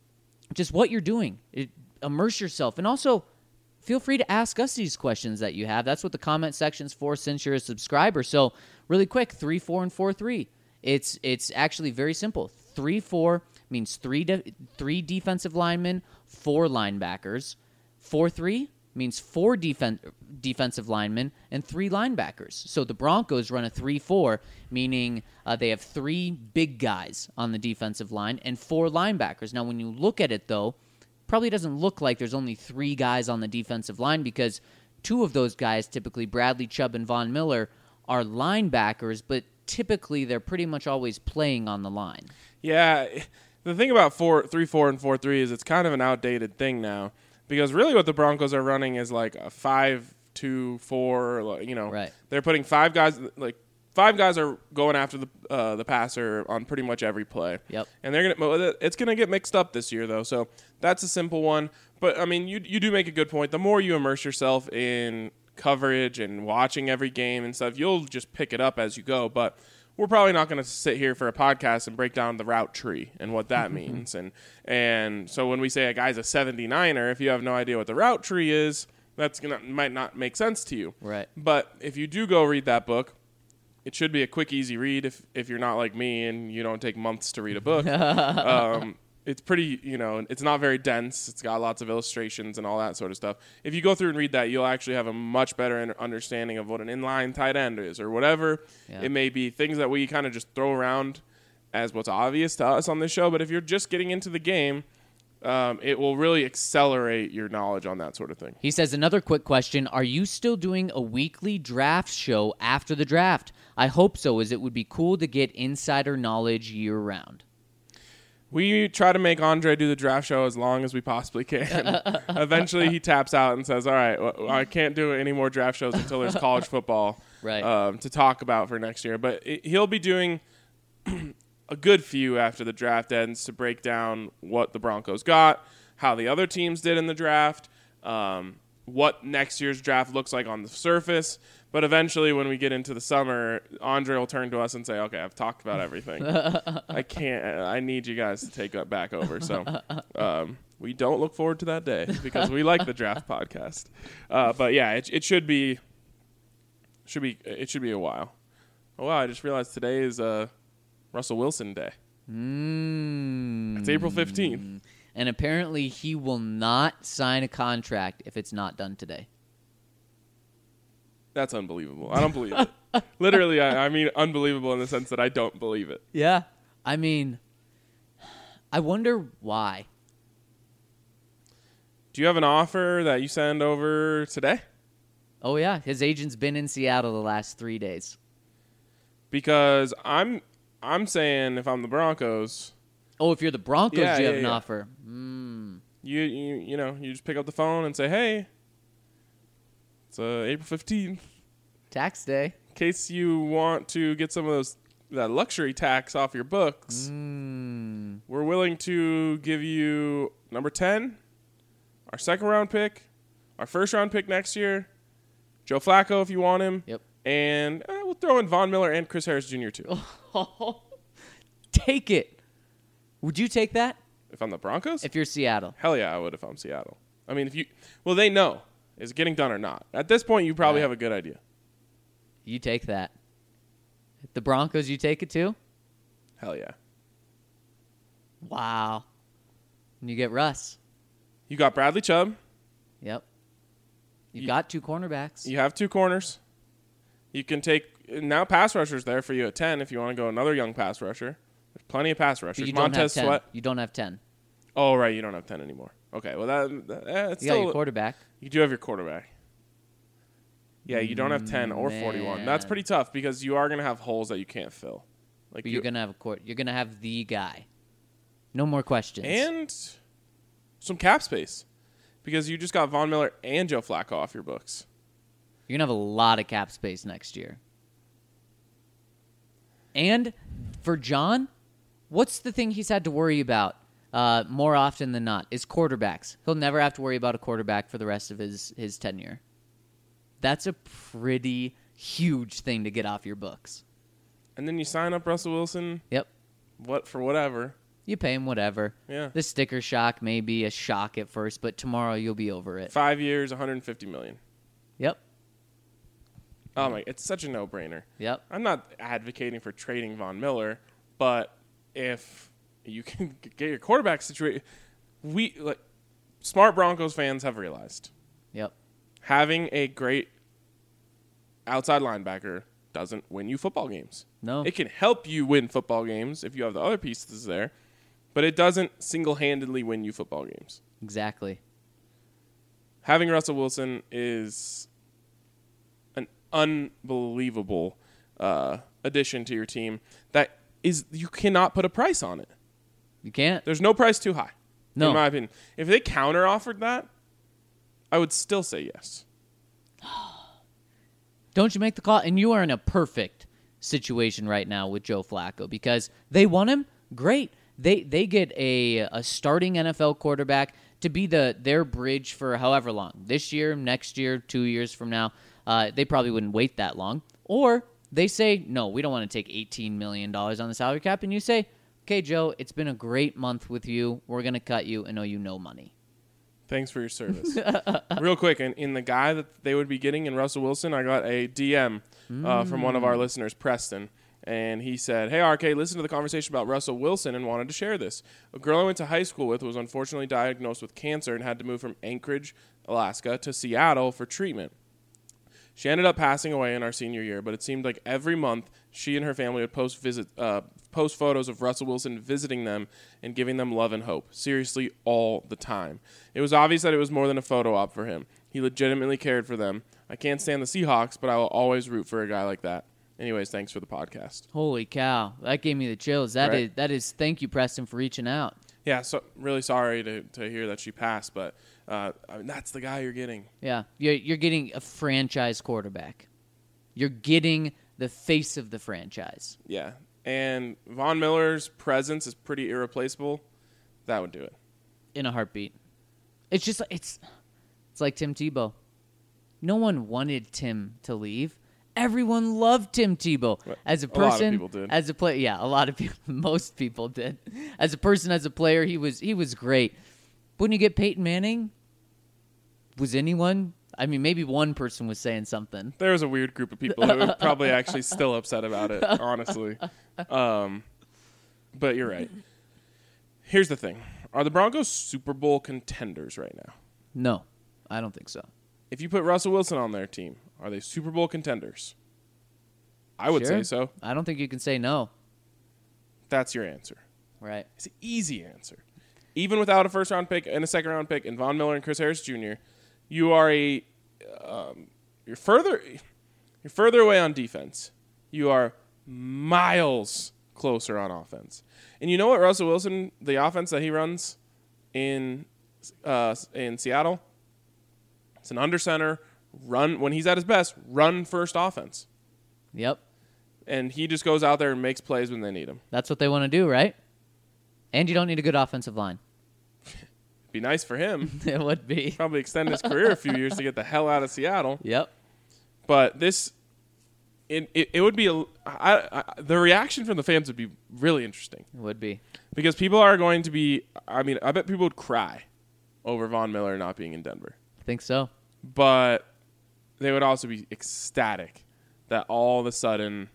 just what you're doing, it, immerse yourself, and also feel free to ask us these questions that you have. That's what the comment section's for since you're a subscriber. So really quick, three four and four three. It's it's actually very simple. three four means three de- three defensive linemen, four linebackers. four three means four defen- defensive linemen and three linebackers. So the Broncos run a three four, meaning uh, they have three big guys on the defensive line and four linebackers. Now, when you look at it, though, probably doesn't look like there's only three guys on the defensive line because two of those guys, typically Bradley Chubb and Von Miller, are linebackers, but typically they're pretty much always playing on the line. Yeah, the thing about four, three, four, and four, three is it's kind of an outdated thing now because really what the Broncos are running is like a five, two, four. You know, right. They're putting five guys like five guys are going after the uh, the passer on pretty much every play. Yep. And they're gonna it's gonna get mixed up this year though, so that's a simple one. But I mean, you you do make a good point. The more you immerse yourself in coverage and watching every game and stuff, you'll just pick it up as you go. But we're probably not going to sit here for a podcast and break down the route tree and what that means. And and so when we say a guy's a seventy-niner, if you have no idea what the route tree is, That's gonna might not make sense to you. Right. But if you do go read that book, it should be a quick, easy read if, if you're not like me and you don't take months to read a book. um, it's pretty, you know, it's not very dense. It's got lots of illustrations and all that sort of stuff. If you go through and read that, you'll actually have a much better understanding of what an inline tight end is or whatever Yeah. it may be. Things that we kind of just throw around as what's obvious to us on this show. But if you're just getting into the game, um, it will really accelerate your knowledge on that sort of thing. He says, another quick question. Are you still doing a weekly draft show after the draft? I hope so, as it would be cool to get insider knowledge year-round. We try to make Andre do the draft show as long as we possibly can. Eventually, he taps out and says, all right, well, I can't do any more draft shows until there's college football Right. um, to talk about for next year. But it, he'll be doing a good few after the draft ends to break down what the Broncos got, how the other teams did in the draft, um, what next year's draft looks like on the surface. But eventually, when we get into the summer, Andre will turn to us and say, okay, I've talked about everything. I can't, I need you guys to take it back over. So um, we don't look forward to that day because we like the draft podcast. Uh, but yeah, it, it should be, should be, it should be a while. Oh, wow, I just realized today is uh, Russell Wilson Day. Mm. It's April fifteenth. And apparently he will not sign a contract if it's not done today. That's unbelievable. I don't believe it. Literally, I, I mean unbelievable in the sense that I don't believe it. Yeah. I mean, I wonder why. Do you have an offer that you send over today? Oh, yeah. His agent's been in Seattle the last three days. Because I'm I'm saying if I'm the Broncos, Oh, if you're the Broncos, Yeah, you have yeah, an yeah. offer. Mm. you you you know, you just pick up the phone and say, "Hey, it's uh, April fifteenth. Tax day. In case you want to get some of those that luxury tax off your books, Mm. we're willing to give you number ten, our second round pick, our first round pick next year, Joe Flacco if you want him, Yep. and uh, we'll throw in Von Miller and Chris Harris Junior too. Take it. Would you take that If I'm the Broncos? if you're Seattle? Hell yeah, I would if I'm Seattle. I mean, if you, well, they know. Is it getting done or not? At this point, you probably Right. have a good idea. You take that. If the Broncos, you take it too? Hell yeah. Wow. And you get Russ. You got Bradley Chubb. Yep. You've You- got two cornerbacks. You have two corners. You can take, now pass rushers there for you at ten if you want to go another young pass rusher. There's plenty of pass but rushers. you don't have Montez ten. Sweat. You don't have ten. Oh, right. You don't have ten anymore. Okay. Well, that, that eh, it's You got still, your quarterback. you do have your quarterback. Yeah, you don't have ten or forty-one. That's Man. pretty tough because you are going to have holes that you can't fill. Like But you, you're gonna have a court. You're gonna have the guy. No more questions. and some cap space because you just got Von Miller and Joe Flacco off your books. You're gonna have a lot of cap space next year. And for John, what's the thing he's had to worry about uh, more often than not? Is quarterbacks. He'll never have to worry about a quarterback for the rest of his his tenure. That's a pretty huge thing to get off your books. And then you sign up Russell Wilson, Yep. what for whatever. You pay him whatever. Yeah. The sticker shock may be a shock at first, but tomorrow you'll be over it. Five years, one hundred fifty million. Yep. Oh my, it's such a no-brainer. Yep. I'm not advocating for trading Von Miller, but if you can get your quarterback situation, we like smart Broncos fans have realized Yep. having a great outside linebacker doesn't win you football games. No. It can help you win football games if you have the other pieces there, but it doesn't single-handedly win you football games. Exactly. Having Russell Wilson is an unbelievable uh, addition to your team that is you cannot put a price on it. You can't. There's no price too high, No. in my opinion. If they counter offered that, I would still say yes. Don't you make the call? And you are in a perfect situation right now with Joe Flacco because they want him. Great. They they get a a starting N F L quarterback to be the their bridge for however long. This year, next year, two years from now. Uh, they probably wouldn't wait that long. Or they say, no, we don't want to take eighteen million dollars on the salary cap. And you say, okay, Joe, it's been a great month with you. We're going to cut you and owe you no money. Thanks for your service. Real quick, in, in the guy that they would be getting in Russell Wilson, I got a D M uh, from one of our listeners, Preston. And he said, "Hey, R K, listen to the conversation about Russell Wilson and wanted to share this. A girl I went to high school with was unfortunately diagnosed with cancer and had to move from Anchorage, Alaska to Seattle for treatment. She ended up passing away in our senior year, but it seemed like every month she and her family would post visit, uh, post photos of Russell Wilson visiting them and giving them love and hope. Seriously, all the time. It was obvious that it was more than a photo op for him. He legitimately cared for them. I can't stand the Seahawks, but I will always root for a guy like that. Anyways, thanks for the podcast." Holy cow. That gave me the chills. That Right. is that is thank you, Preston, for reaching out. Yeah, so really sorry to, to hear that she passed, but uh, I mean, that's the guy you're getting. Yeah. You're, you're getting a franchise quarterback. You're getting the face of the franchise. Yeah, and Von Miller's presence is pretty irreplaceable. That would do it. In a heartbeat. It's just it's it's like Tim Tebow. No one wanted Tim to leave. Everyone loved Tim Tebow as a A lot of person, people did. as a player. Yeah, a lot of people, most people did. As a person, as a player, he was he was great. But when you get Peyton Manning, was anyone? I mean, maybe one person was saying something. There was a weird group of people who were probably actually still upset about it, honestly. Um, but you're right. Here's the thing: are the Broncos Super Bowl contenders right now? No, I don't think so. If you put Russell Wilson on their team, are they Super Bowl contenders? I would Sure. say so. I don't think you can say no. That's your answer. Right. It's an easy answer. Even without a first round pick and a second round pick and Von Miller and Chris Harris Junior, you are a um, you're further you're further away on defense. You are miles closer on offense. And you know what Russell Wilson, the offense that he runs in uh, in Seattle, it's an under center run when he's at his best, run first offense. Yep. And he just goes out there and makes plays when they need him. That's what they want to do, right? And you don't need a good offensive line. Be nice for him. It would be. Probably extend his career a few years to get the hell out of Seattle. Yep. But this, it it, it would be a, I, I, the reaction from the fans would be really interesting It would be. because people are going to be. I mean, I bet people would cry over Von Miller not being in Denver, I think so. but they would also be ecstatic that all of a sudden,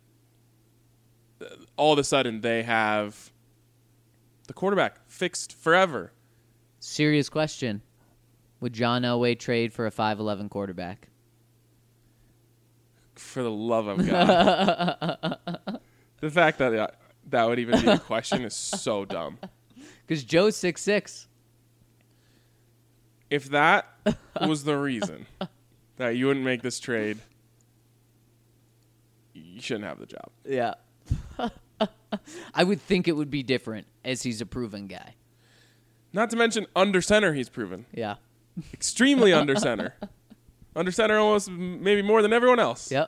all of a sudden they have the quarterback fixed forever. Serious question. Would John Elway trade for a five eleven quarterback? For the love of God. The fact that uh, that would even be a question is so dumb. Because Joe's six six. If that was the reason that you wouldn't make this trade, you shouldn't have the job. Yeah. I would think it would be different as he's a proven guy. Not to mention under center he's proven. Yeah. Extremely under center. Under center almost m- maybe more than everyone else. Yep.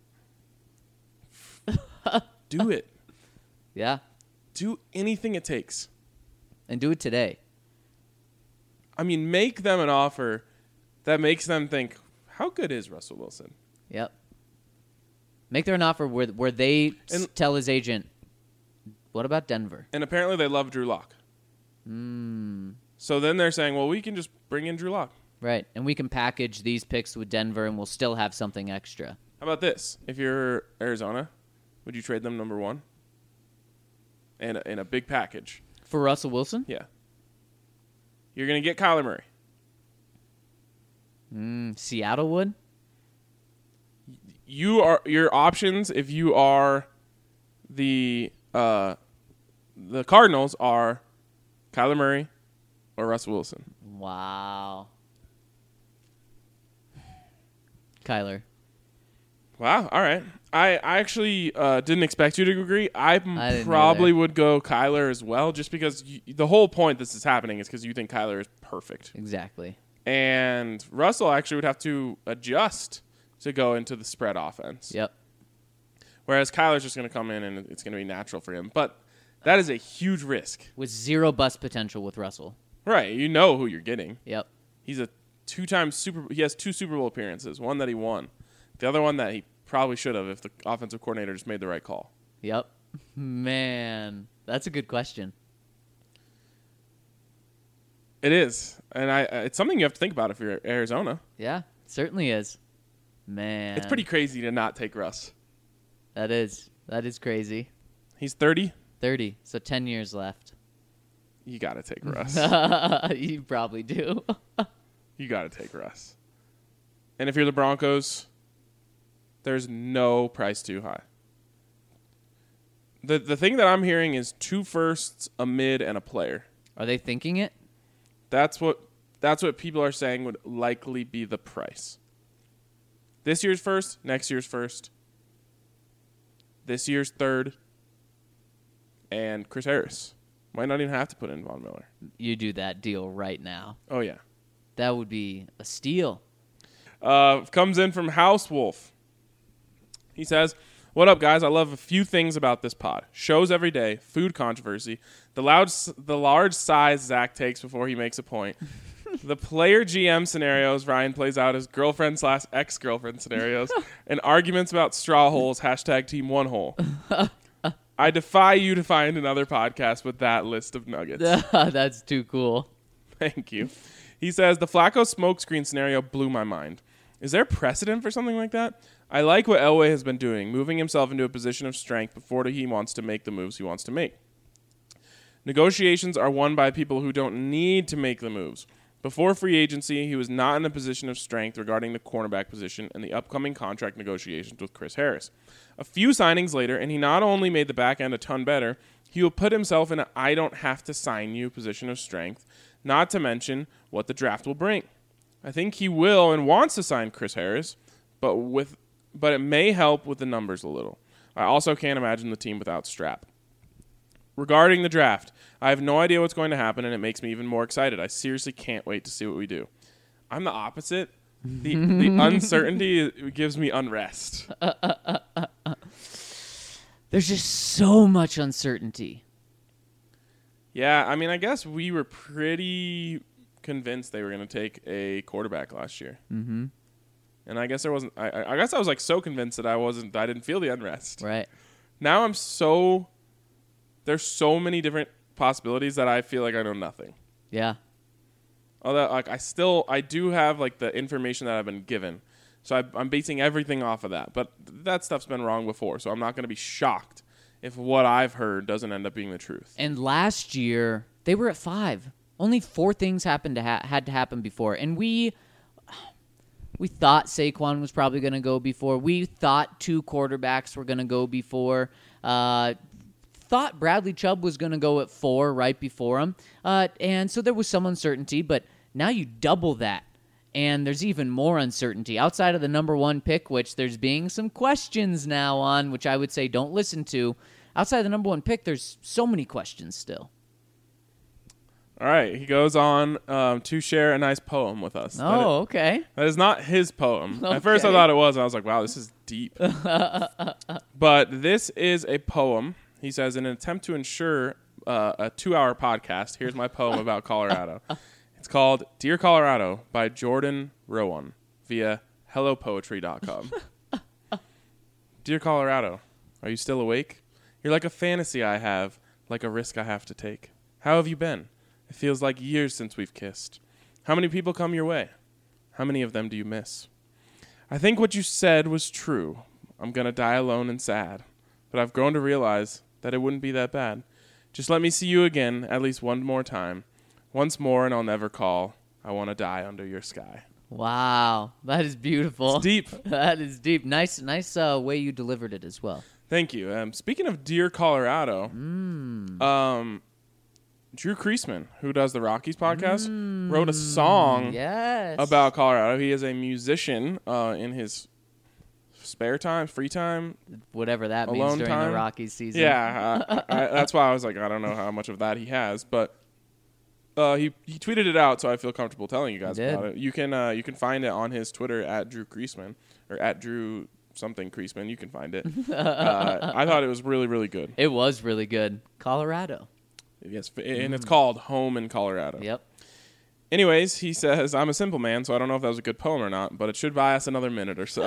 Do it. Yeah. Do anything it takes. And do it today. I mean, make them an offer that makes them think, how good is Russell Wilson? Yep. Make there an offer where where they s- And- tell his agent, what about Denver? And apparently they love Drew Lock. Mm, So then they're saying, well, we can just bring in Drew Lock. right. And we can package these picks with Denver and we'll still have something extra. How about this? If you're Arizona, would you trade them number one? And a, in a big package. For Russell Wilson? Yeah. You're going to get Kyler Murray. Mm, Seattle would? You are your options if you are the uh, the Cardinals are Kyler Murray or Russell Wilson. Wow. Kyler. Wow. All right. I, I actually uh, didn't expect you to agree. I I didn't probably either. would go Kyler as well, just because you, the whole point this is happening is because you think Kyler is perfect. Exactly. And Russell actually would have to adjust to go into the spread offense. Yep. Whereas Kyler's just going to come in and it's going to be natural for him. But that is a huge risk. With zero bust potential with Russell. Right. You know who you're getting. Yep. He's a two-time Super he has two Super Bowl appearances, one that he won. The other one that he probably should have if the offensive coordinator just made the right call. Yep. Man, that's a good question. It is, and I uh, it's something you have to think about if you're Arizona. Yeah, it certainly is. Man. It's pretty crazy to not take Russ. That is. That is crazy. He's thirty. thirty, so ten years left. You got to take Russ. You probably do. You got to take Russ. And if you're the Broncos, there's no price too high. The the thing that I'm hearing is two firsts, a mid, and a player. Are they thinking it? That's what that's what people are saying would likely be the price. This year's first, next year's first, this year's third, and Chris Harris. Might not even have to put in Von Miller. You do that deal right now. Oh, yeah. That would be a steal. Uh, comes in from House Wolf. He says, "What up, guys? I love a few things about this pod. Shows every day, food controversy, the loud, the large size Zach takes before he makes a point, the player G M scenarios Ryan plays out as girlfriend slash ex-girlfriend scenarios, and arguments about straw holes, hashtag team one hole. I defy you to find another podcast with that list of nuggets." That's too cool. Thank you. He says, "The Flacco smokescreen scenario blew my mind. Is there precedent for something like that? I like what Elway has been doing, moving himself into a position of strength before he wants to make the moves he wants to make. Negotiations are won by people who don't need to make the moves. Before free agency, he was not in a position of strength regarding the cornerback position and the upcoming contract negotiations with Chris Harris. A few signings later, and he not only made the back end a ton better, he will put himself in a I don't have to sign you position of strength, not to mention what the draft will bring. I think he will and wants to sign Chris Harris, but with but it may help with the numbers a little. I also can't imagine the team without Strap. Regarding the draft, I have no idea what's going to happen, and it makes me even more excited. I seriously can't wait to see what we do. I'm the opposite. The, the uncertainty gives me unrest. There's just so much uncertainty. Yeah, I mean, I guess we were pretty convinced they were going to take a quarterback last year. Mm-hmm. And I guess there wasn't. I, I guess I was like so convinced that I wasn't. I didn't feel the unrest. Right. Now I'm so. There's so many different possibilities that I feel like I know nothing. Yeah. Although, like, I still I do have like the information that I've been given, so I, I'm basing everything off of that. But that stuff's been wrong before, so I'm not going to be shocked if what I've heard doesn't end up being the truth. And last year they were at five. Only four things happened to ha- had to happen before, and we. We thought Saquon was probably going to go before. We thought two quarterbacks were going to go before. Uh, thought Bradley Chubb was going to go at four right before him. Uh, and so there was some uncertainty, but now you double that. And there's even more uncertainty. Outside of the number one pick, which there's being some questions now on, which I would say don't listen to. Outside of the number one pick, there's so many questions still. All right, he goes on um, to share a nice poem with us. Oh, that it, okay. That is not his poem. Okay. At first I thought it was, and I was like, wow, this is deep. But this is a poem. He says, in an attempt to ensure uh, a two-hour podcast, here's my poem about Colorado. It's called Dear Colorado by Jordan Rowan via hello poetry dot com. Dear Colorado, are you still awake? You're like a fantasy I have, like a risk I have to take. How have you been? It feels like years since we've kissed. How many people come your way? How many of them do you miss? I think what you said was true. I'm going to die alone and sad. But I've grown to realize that it wouldn't be that bad. Just let me see you again at least one more time. Once more and I'll never call. I want to die under your sky. Wow. That is beautiful. It's deep. That is deep. Nice nice uh, way you delivered it as well. Thank you. Um, speaking of Dear Colorado, Mm. um, Drew Kreisman, who does the Rockies podcast, mm. wrote a song yes. about Colorado. He is a musician uh, in his spare time, free time, whatever that means alone during time. the Rockies season. Yeah, uh, I, that's why I was like, I don't know how much of that he has, but uh, he he tweeted it out, so I feel comfortable telling you guys about it. You can uh, you can find it on his Twitter at Drew Kreisman or at Drew something Kreisman. You can find it. uh, I thought it was really really good. It was really good. Colorado. Yes, and it's called Home in Colorado. Yep. Anyways, he says, I'm a simple man, so I don't know if that was a good poem or not, but it should buy us another minute or so.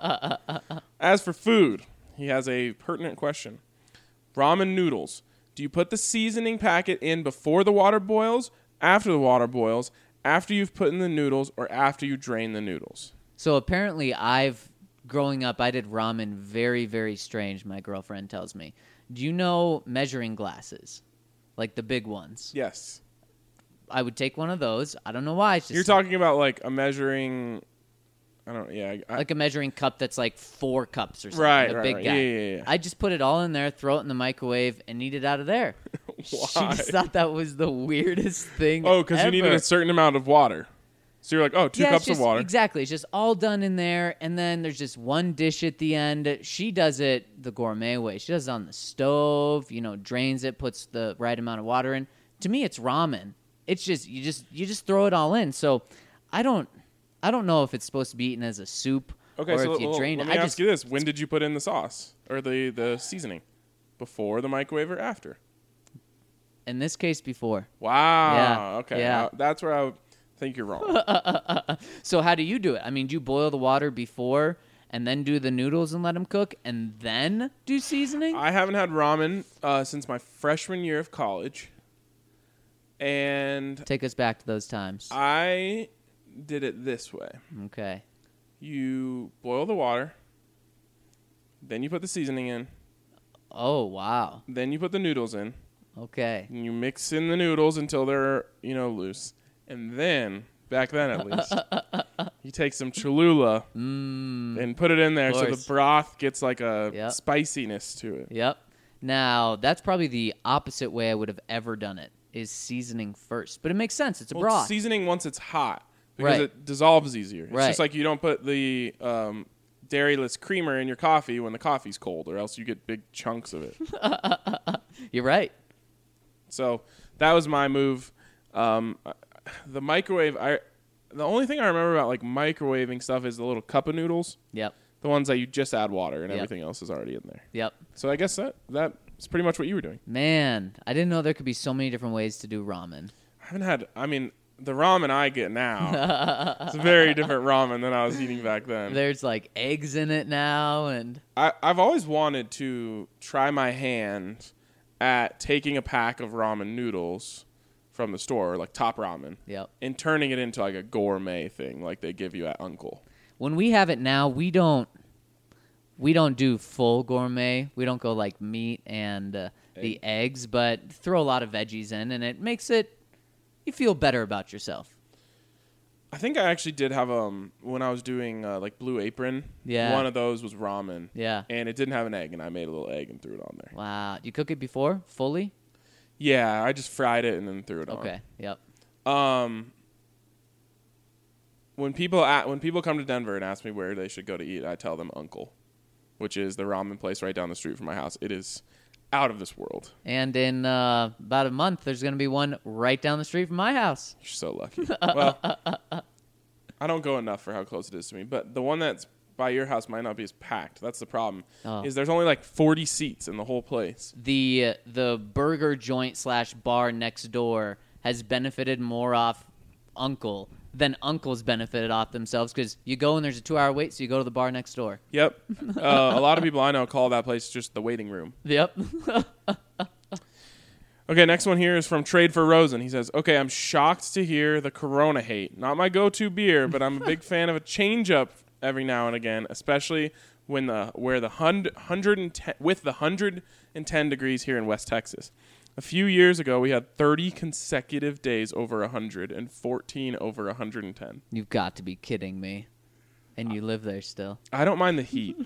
As for food, he has a pertinent question. Ramen noodles. Do you put the seasoning packet in before the water boils, after the water boils, after you've put in the noodles, or after you drain the noodles? So apparently I've, growing up, I did ramen very, very strange, my girlfriend tells me. Do you know measuring glasses? Like the big ones? Yes. I would take one of those. I don't know why. It's just You're talking about like a measuring... I don't. Yeah. I, like a measuring cup that's like four cups or something. Right, a right, big right. guy. Yeah, yeah, yeah. I just put it all in there, throw it in the microwave, and eat it out of there. She Why? just thought that was the weirdest thing. Oh, because you needed ever. a certain amount of water. So you're like, oh, two yeah, cups it's just, of water. Exactly. It's just all done in there, and then there's just one dish at the end. She does it the gourmet way. She does it on the stove, you know, drains it, puts the right amount of water in. To me, it's ramen. It's just you just you just throw it all in. So I don't I don't know if it's supposed to be eaten as a soup Okay, or so if you l- drain let it. me I ask just, you this: when did you put in the sauce or the the seasoning? Before the microwave or after? in this case, before. Wow. Yeah, Okay. yeah. Uh, that's where I would think you're wrong. So how do you do it? I mean, do you boil the water before and then do the noodles and let them cook and then do seasoning? I haven't had ramen uh, since my freshman year of college, and Take us back to those times. I did it this way. Okay. You boil the water, then you put the seasoning in, Oh, wow. then you put the noodles in, Okay. and you mix in the noodles until they're, you know, loose. And then, back then at least, you take some Cholula Mmm. and put it in there so the course. broth gets like a Yep. spiciness to it. Yep. Now, that's probably the opposite way I would have ever done it, is seasoning first. But it makes sense. It's a Well, broth. it's seasoning once it's hot because Right. it dissolves easier. It's Right. just like you don't put the um, dairyless creamer in your coffee when the coffee's cold, or else you get big chunks of it. You're right. So that was my move. Um, the microwave, I the only thing I remember about like microwaving stuff is the little cup of noodles, Yep. the ones that you just add water and Yep. everything else is already in there. Yep. So I guess that that's pretty much what you were doing. Man, I didn't know there could be so many different ways to do ramen. I haven't had. I mean, the ramen I get now, it's a very different ramen than I was eating back then. There's like eggs in it now, and I, I've always wanted to try my hand at taking a pack of ramen noodles from the store, like Top Ramen, yep. and turning it into like a gourmet thing like they give you at Uncle. When we have it now, we don't we don't do full gourmet. We don't go like meat and uh, the eggs, but throw a lot of veggies in, and it makes it you feel better about yourself. I think I actually did have um when I was doing uh, like Blue Apron. Yeah. One of those was ramen. Yeah. And it didn't have an egg, and I made a little egg and threw it on there. Wow. You cook it before fully? Yeah, I just fried it and then threw it Okay. Yep. on. Um. When people at, when people come to Denver and ask me where they should go to eat, I tell them Uncle, which is the ramen place right down the street from my house. It is out of this world. And in uh, about a month, there's going to be one right down the street from my house. You're so lucky. Well, I don't go enough for how close it is to me, but the one that's by your house might not be as packed. That's the problem. Oh. Is there's only like forty seats in the whole place. The uh, the burger joint slash bar next door has benefited more off Uncle than Uncle's benefited off themselves, because you go and there's a two-hour wait, so you go to the bar next door. Yep. uh, a lot of people I know call that place just the waiting room. Yep. Okay, next one here is from Trade for Rosen. He says, okay, I'm shocked to hear the Corona hate. Not my go-to beer, but I'm a big fan of a change-up every now and again, especially when the where the one hundred ten with the one hundred ten degrees here in West Texas. A few years ago, we had thirty consecutive days over one hundred and fourteen over one hundred ten. You've got to be kidding me. And you live there still. I don't mind the heat.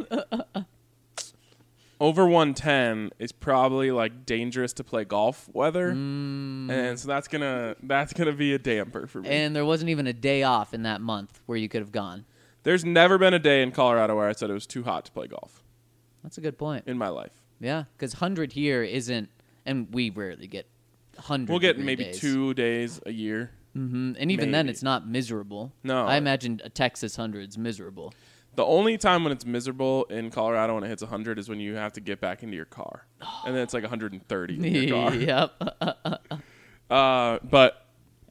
Over one ten is probably like dangerous to play golf weather, Mm. and so that's gonna that's gonna be a damper for me. And there wasn't even a day off in that month where you could have gone. There's never been a day in Colorado where I said it was too hot to play golf That's a good point. in my life. Yeah, because one hundred here isn't, and we rarely get one hundred. We'll get degree maybe days. two days a year. Mm-hmm. And even then, maybe. it's not miserable. No. I imagine a Texas hundred's miserable. The only time when it's miserable in Colorado when it hits one hundred is when you have to get back into your car, and then it's like one hundred thirty in your car. Yep. Uh, but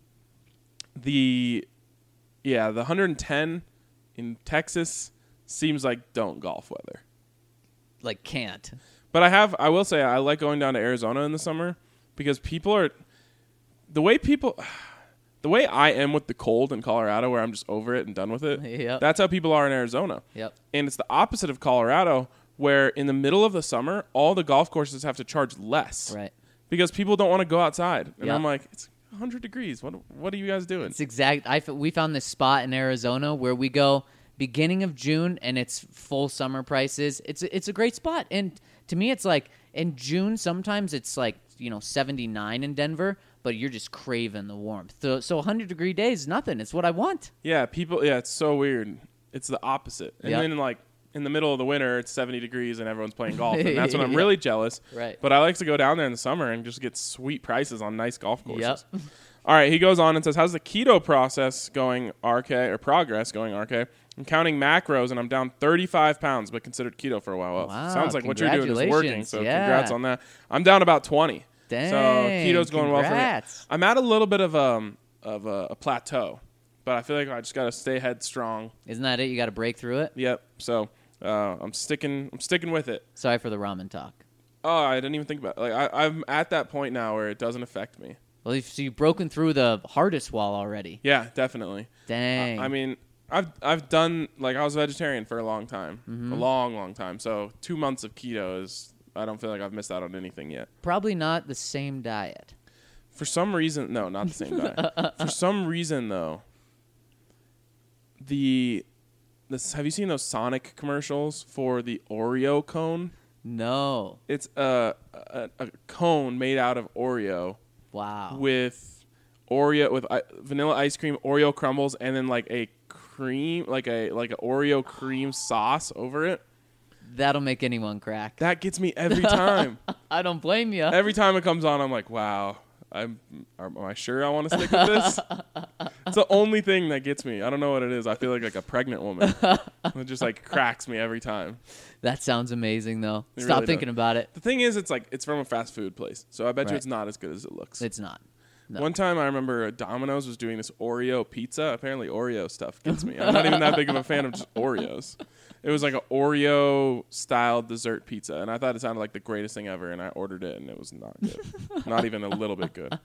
the yeah, the one hundred ten in Texas seems like don't golf weather. Like can't. But I have I will say I like going down to Arizona in the summer because people are the way people the way I am with the cold in Colorado, where I'm just over it and done with it. Yep. That's how people are in Arizona. Yep. And it's the opposite of Colorado, where in the middle of the summer, all the golf courses have to charge less. Right. Because people don't want to go outside. And Yep. I'm like, it's one hundred degrees. What What are you guys doing? It's exact. I f- we found this spot in Arizona where we go beginning of June and it's full summer prices. It's a, it's a great spot. And to me, it's like in June, sometimes it's like, you know, seventy-nine in Denver, but you're just craving the warmth. So, so one hundred degree days is nothing. It's what I want. Yeah, people. Yeah, it's so weird. It's the opposite. And Yep. then like in the middle of the winter, it's seventy degrees and everyone's playing golf, and that's when I'm Yeah. really jealous. Right. But I like to go down there in the summer and just get sweet prices on nice golf courses. Yep. All right, he goes on and says, "How's the keto process going, R K, or progress going, R K? I'm counting macros and I'm down thirty-five pounds, but considered keto for a while. Well, Wow, sounds like what you're doing is working. congratulations. So Yeah. congrats on that. I'm down about twenty. Dang, so keto's going well congrats. for me. I'm at a little bit of um of a, a plateau, but I feel like I just got to stay headstrong. Isn't that it? You got to break through it. Yep. So uh, I'm sticking. I'm sticking with it. Sorry for the ramen talk. Oh, I didn't even think about it. Like I, I'm at that point now where it doesn't affect me. Well, you've, so you've broken through the hardest wall already. Yeah, definitely. Dang. I, I mean, I've I've done like I was a vegetarian for a long time, Mm-hmm. a long, long time. So two months of keto is. I don't feel like I've missed out on anything yet. Probably not the same diet. For some reason, no, not the same diet. For some reason, though, the this have you seen those Sonic commercials for the Oreo cone? No. It's a a, a cone made out of Oreo Wow. with Oreo with uh, vanilla ice cream, Oreo crumbles, and then like a cream, like a like an Oreo cream sauce over it. That'll make anyone crack. That gets me every time. I don't blame you. Every time it comes on, I'm like, wow. I'm, am I sure I want to stick with this? It's the only thing that gets me. I don't know what it is. I feel like like a pregnant woman. It just like cracks me every time. That sounds amazing, though. It Stop really thinking does. about it. The thing is, it's like it's from a fast food place, so I bet you Right. it's not as good as it looks. It's not. No. One time, I remember Domino's was doing this Oreo pizza. Apparently, Oreo stuff gets me. I'm not even that big of a fan of just Oreos. It was like an Oreo-style dessert pizza, and I thought it sounded like the greatest thing ever, and I ordered it, and it was not good. Not even a little bit good.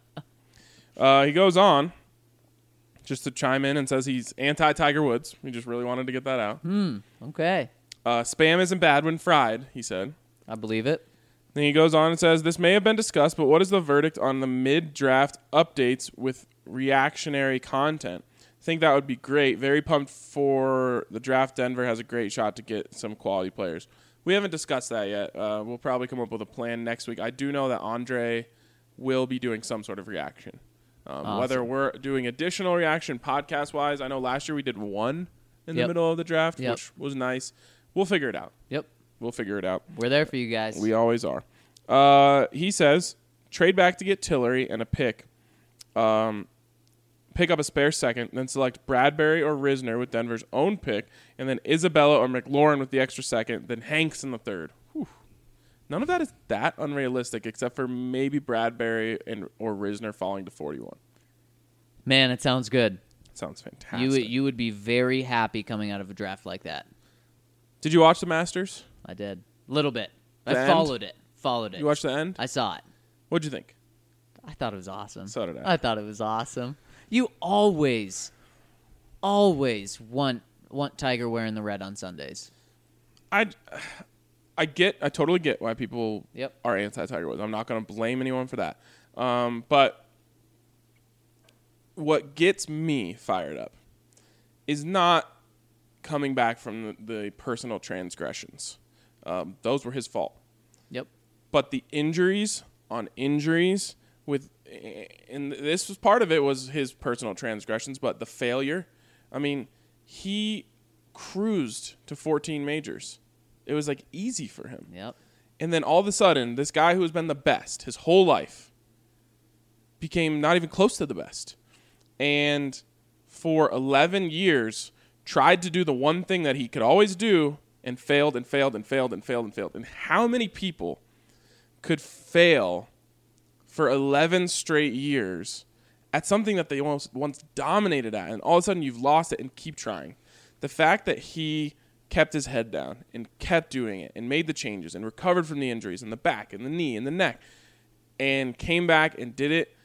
Uh, he goes on just to chime in and says he's anti-Tiger Woods. We just really wanted to get that out. Hmm. Okay. Uh, spam isn't bad when fried, he said. I believe it. Then he goes on and says, this may have been discussed, but what is the verdict on the mid-draft updates with reactionary content? I think that would be great. Very pumped for the draft. Denver has a great shot to get some quality players. We haven't discussed that yet. Uh, we'll probably come up with a plan next week. I do know that Andre will be doing some sort of reaction. Um, Awesome. Whether we're doing additional reaction podcast-wise, I know last year we did one in Yep. the middle of the draft, Yep. which was nice. We'll figure it out. Yep. We'll figure it out. We're there for you guys. We always are. Uh, he says, trade back to get Tillery and a pick. Um, pick up a spare second, then select Bradbury or Risner with Denver's own pick, and then Isabella or McLaurin with the extra second, then Hanks in the third. Whew. None of that is that unrealistic, except for maybe Bradbury and or Risner falling to forty-one. Man, it sounds good. Sounds fantastic. You you would be very happy coming out of a draft like that. Did you watch the Masters? I did. A little bit. I The end? followed it. Followed it. You watched the end? I saw it. What'd you think? I thought it was awesome. So did I. I thought it was awesome. You always, always want want Tiger wearing the red on Sundays. I, I get, I totally get why people Yep. are anti-Tiger Woods. I'm not going to blame anyone for that. Um, but what gets me fired up is not coming back from the, the personal transgressions. Um, those were his fault. Yep. But the injuries on injuries with, and this was part of it was his personal transgressions, but the failure. I mean, he cruised to fourteen majors. It was like easy for him. Yep. And then all of a sudden, this guy who has been the best his whole life became not even close to the best. And for eleven years, tried to do the one thing that he could always do and failed and failed and failed and failed and failed. And how many people could fail for eleven straight years at something that they once, once dominated at, and all of a sudden you've lost it and keep trying? The fact that he kept his head down and kept doing it and made the changes and recovered from the injuries in the back and the knee and the neck and came back and did it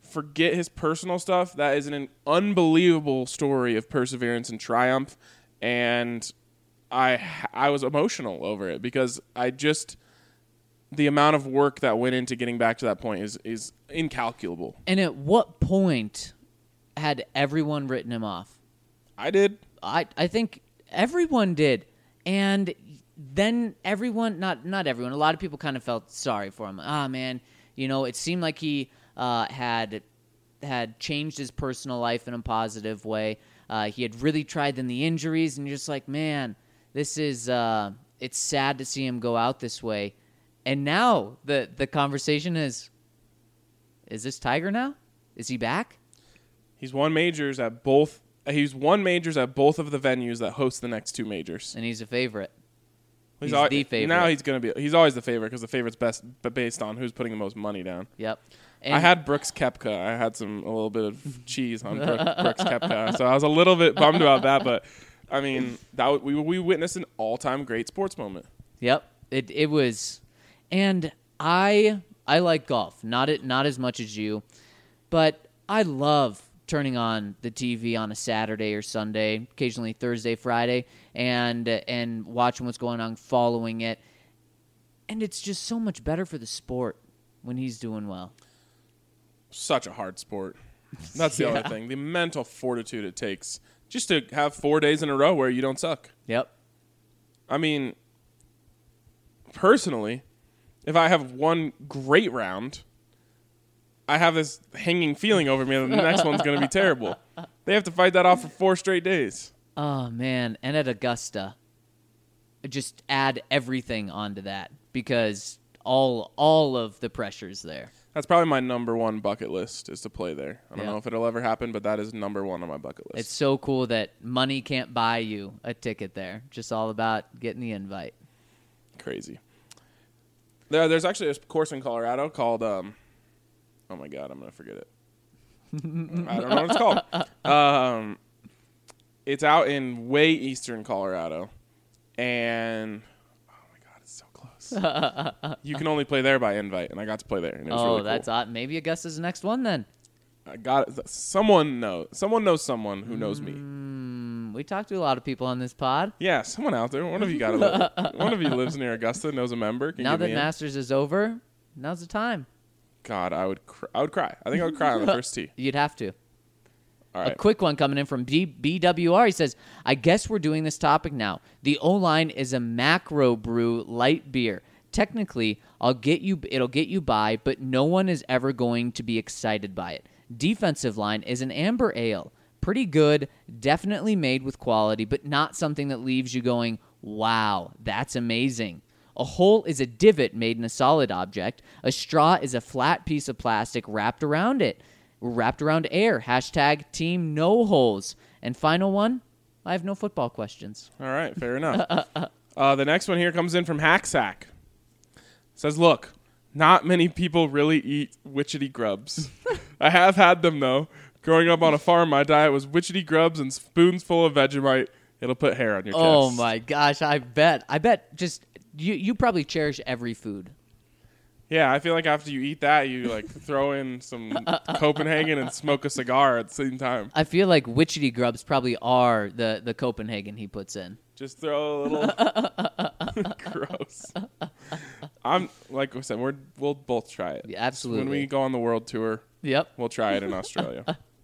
forget his personal stuff, that is an unbelievable story of perseverance and triumph. And I I was emotional over it because I just the amount of work that went into getting back to that point is is incalculable. And at what point had everyone written him off? I did. I I think everyone did. And then everyone, not not everyone, a lot of people kind of felt sorry for him. Ah, man, you know, it seemed like he uh, had had changed his personal life in a positive way. Uh, he had really tried then the injuries, and you're just like, man, this is uh, it's sad to see him go out this way. And now the the conversation is, is this Tiger now? Is he back? He's won majors at both. He's won majors at both of the venues that host the next two majors. And he's a favorite. He's, He's always, the favorite. Now he's going to be. He's always the favorite because the favorite's best, but based on who's putting the most money down. Yep. And I had Brooks Koepka. I had some a little bit of cheese on Brook, Brooks Koepka, so I was a little bit bummed about that. But I mean, that we we witnessed an all-time great sports moment. Yep. It it was, and I I like golf. Not it not as much as you, but I love turning on the T V on a Saturday or Sunday, occasionally Thursday, Friday, and and watching what's going on, following it. And it's just so much better for the sport when he's doing well. Such a hard sport. That's the Yeah. other thing. The mental fortitude it takes just to have four days in a row where you don't suck. Yep. I mean, personally, if I have one great round, I have this hanging feeling over me that the next one's going to be terrible. They have to fight that off for four straight days. Oh, man. And at Augusta, just add everything onto that because all all of the pressure's there. That's probably my number one bucket list is to play there. I don't Yeah. know if it'll ever happen, but that is number one on my bucket list. It's so cool that money can't buy you a ticket there. Just all about getting the invite. Crazy. There, there's actually a course in Colorado called, um, oh my God, I'm going to forget it. I don't know what it's called. Um, it's out in way eastern Colorado. And, oh my God, it's so close. You can only play there by invite, and I got to play there. And it was Oh, really cool. that's odd. Maybe Augusta's the next one then. I got it. Someone knows. Someone knows someone who knows me. Mm, we talked to a lot of people on this pod. Yeah, someone out there. One of you got to live. One of you lives near Augusta, knows a member. Can Now get that me in. Masters is over, now's the time. God, I would. Cr- I would cry. I think I would cry on the first tee. You'd have to. All A right. quick one coming in from B- BWR. He says, I guess we're doing this topic now. The O-line is a macro brew light beer. Technically, I'll get you. It'll get you by, but no one is ever going to be excited by it. Defensive line is an amber ale. Pretty good, definitely made with quality, but not something that leaves you going, wow, that's amazing. A hole is a divot made in a solid object. A straw is a flat piece of plastic wrapped around it. Wrapped around air. Hashtag team no holes. And final one, I have no football questions. All right. Fair enough. uh, the next one here comes in from Hacksack. Says, look, not many people really eat witchetty grubs. I have had them, though. Growing up on a farm, my diet was witchetty grubs and spoons full of Vegemite. It'll put hair on your chest. Oh, my gosh. I bet. I bet just you, you probably cherish every food. Yeah, I feel like after you eat that, you like throw in some Copenhagen and smoke a cigar at the same time. I feel like witchetty grubs probably are the, the Copenhagen he puts in. Just throw a little gross. I'm like I said, we're we'll both try it. Yeah, absolutely. When we go on the world tour, Yep. we'll try it in Australia.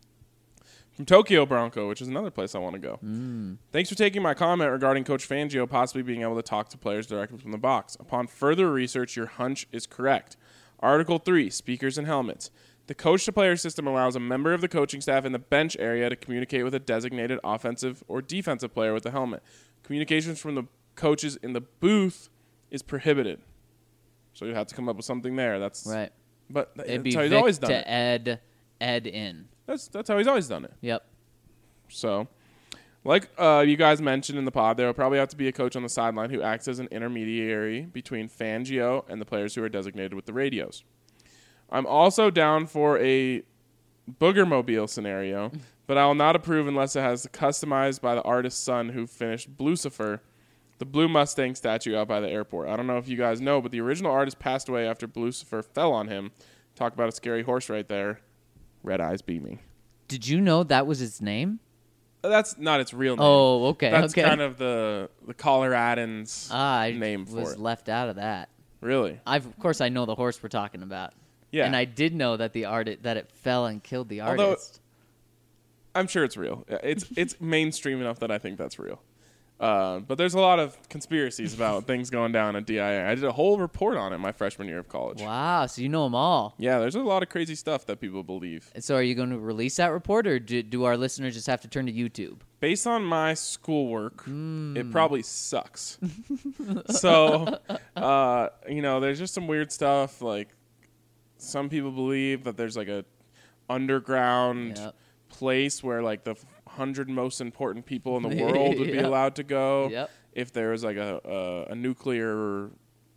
From Tokyo Bronco, which is another place I want to go. Mm. Thanks for taking my comment regarding Coach Fangio possibly being able to talk to players directly from the box. Upon further research, your hunch is correct. Article three, speakers and helmets. The coach-to-player system allows a member of the coaching staff in the bench area to communicate with a designated offensive or defensive player with a helmet. Communications from the coaches in the booth is prohibited. So you have to come up with something there. That's Right. But It'd that's be how he's Vic always done to it. Ed, Ed in. That's that's how he's always done it. Yep. So, like uh, you guys mentioned in the pod, there will probably have to be a coach on the sideline who acts as an intermediary between Fangio and the players who are designated with the radios. I'm also down for a Boogermobile scenario, but I will not approve unless it has customized by the artist's son who finished Blucifer, the blue Mustang statue out by the airport. I don't know if you guys know, but the original artist passed away after Blucifer fell on him. Talk about a scary horse right there. Red Eyes Beaming. Did you know that was its name? That's not its real name. Oh, okay. That's okay. kind of the the Coloradans ah, I name for was it. left out of that. Really? I've, of course, I know the horse we're talking about. Yeah. And I did know that the art that it fell and killed the Although- artist. I'm sure it's real. It's it's mainstream enough that I think that's real. Uh, but there's a lot of conspiracies about things going down at D I A. I did a whole report on it my freshman year of college. Wow, so you know them all. Yeah, there's a lot of crazy stuff that people believe. And so are you going to release that report, or do, do our listeners just have to turn to YouTube? Based on my schoolwork, Hmm. it probably sucks. so, uh, you know, there's just some weird stuff. Like, some people believe that there's like a underground Yep. place where like the hundred most important people in the world would be Yep. allowed to go. Yep. If there was like a, a, a nuclear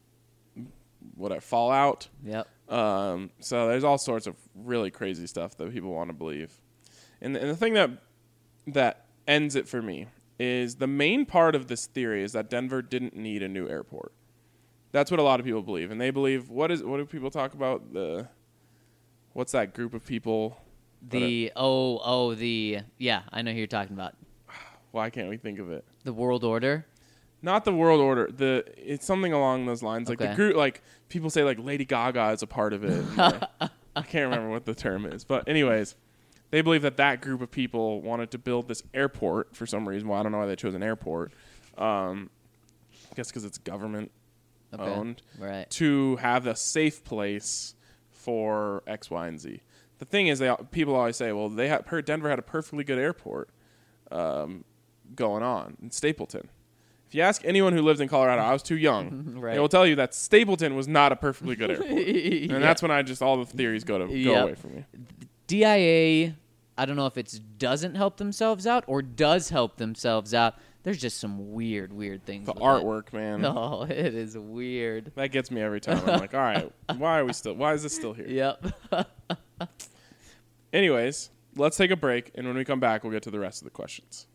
what fallout. Yep. Um, so there's all sorts of really crazy stuff that people want to believe. And, and the thing that that ends it for me is the main part of this theory is that Denver didn't need a new airport. That's what a lot of people believe. And they believe, what is what do people talk about? The what's that group of people? The, oh, oh, the, yeah, I know who you're talking about. Why can't we think of it? The World Order. Not the world order. The it's something along those lines. Like Okay. the group, like people say, like Lady Gaga is a part of it. And, like, I can't remember what the term is, but anyways, they believe that that group of people wanted to build this airport for some reason. Well, I don't know why they chose an airport. Um, I guess because it's government Okay. owned. Right. To have a safe place for X, Y, and Z. The thing is, they people always say, well, they had Denver had a perfectly good airport um, going on in Stapleton. If you ask anyone who lived in Colorado, I was too young. Right. They will tell you that Stapleton was not a perfectly good airport, and Yeah. that's when I just all the theories go to go Yep. away from me. D I A, I don't know if it doesn't help themselves out or does help themselves out. There's just some weird, weird things. The with artwork, man, It. Oh, it is weird. that gets me every time. I'm like, all right, why are we still? Why is this still here? Yep. Anyways, let's take a break, and when we come back, we'll get to the rest of the questions.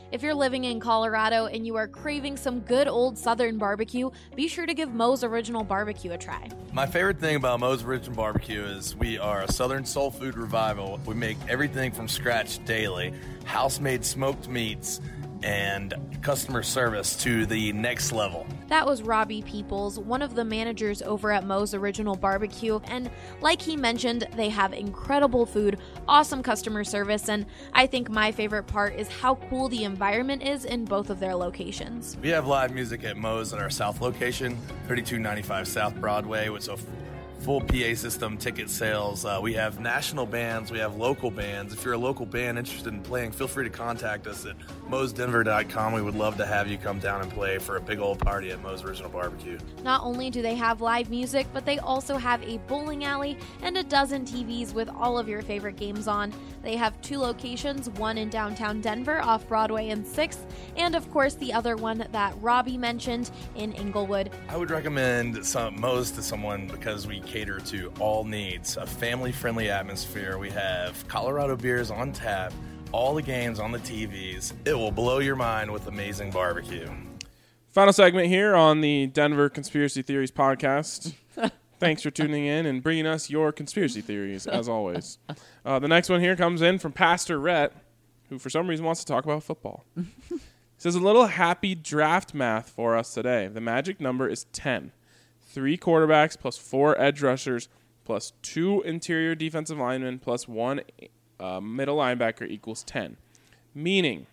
If you're living in Colorado and you are craving some good old Southern barbecue, be sure to give Moe's Original Barbecue a try. My favorite thing about Moe's Original Barbecue is we are a Southern soul food revival. We make everything from scratch daily, house-made smoked meats, and customer service to the next level. That was Robbie Peoples, one of the managers over at Moe's Original Barbecue, and like he mentioned, they have incredible food, awesome customer service, and I think my favorite part is how cool the environment is in both of their locations. We have live music at Moe's at our South location, thirty-two ninety-five South Broadway, with a full P A system, ticket sales. Uh, we have national bands. We have local bands. If you're a local band interested in playing, feel free to contact us at moes denver dot com. We would love to have you come down and play for a big old party at Moe's Original Barbecue. Not only do they have live music, but they also have a bowling alley and a dozen T Vs with all of your favorite games on. They have two locations, one in downtown Denver off Broadway and sixth, and of course the other one that Robbie mentioned in Inglewood. I would recommend some Moe's to someone because we cater to all needs. A family-friendly atmosphere. We have Colorado beers on tap, all the games on the T Vs. It will blow your mind with amazing barbecue. Final segment here on the Denver Conspiracy Theories podcast. Thanks for tuning in and bringing us your conspiracy theories, as always. Uh, the next one here comes in from Pastor Rhett, who for some reason wants to talk about football. He says, a little happy draft math for us today. The magic number is ten. Three quarterbacks plus four edge rushers plus two interior defensive linemen plus one uh, middle linebacker equals ten. Meaning,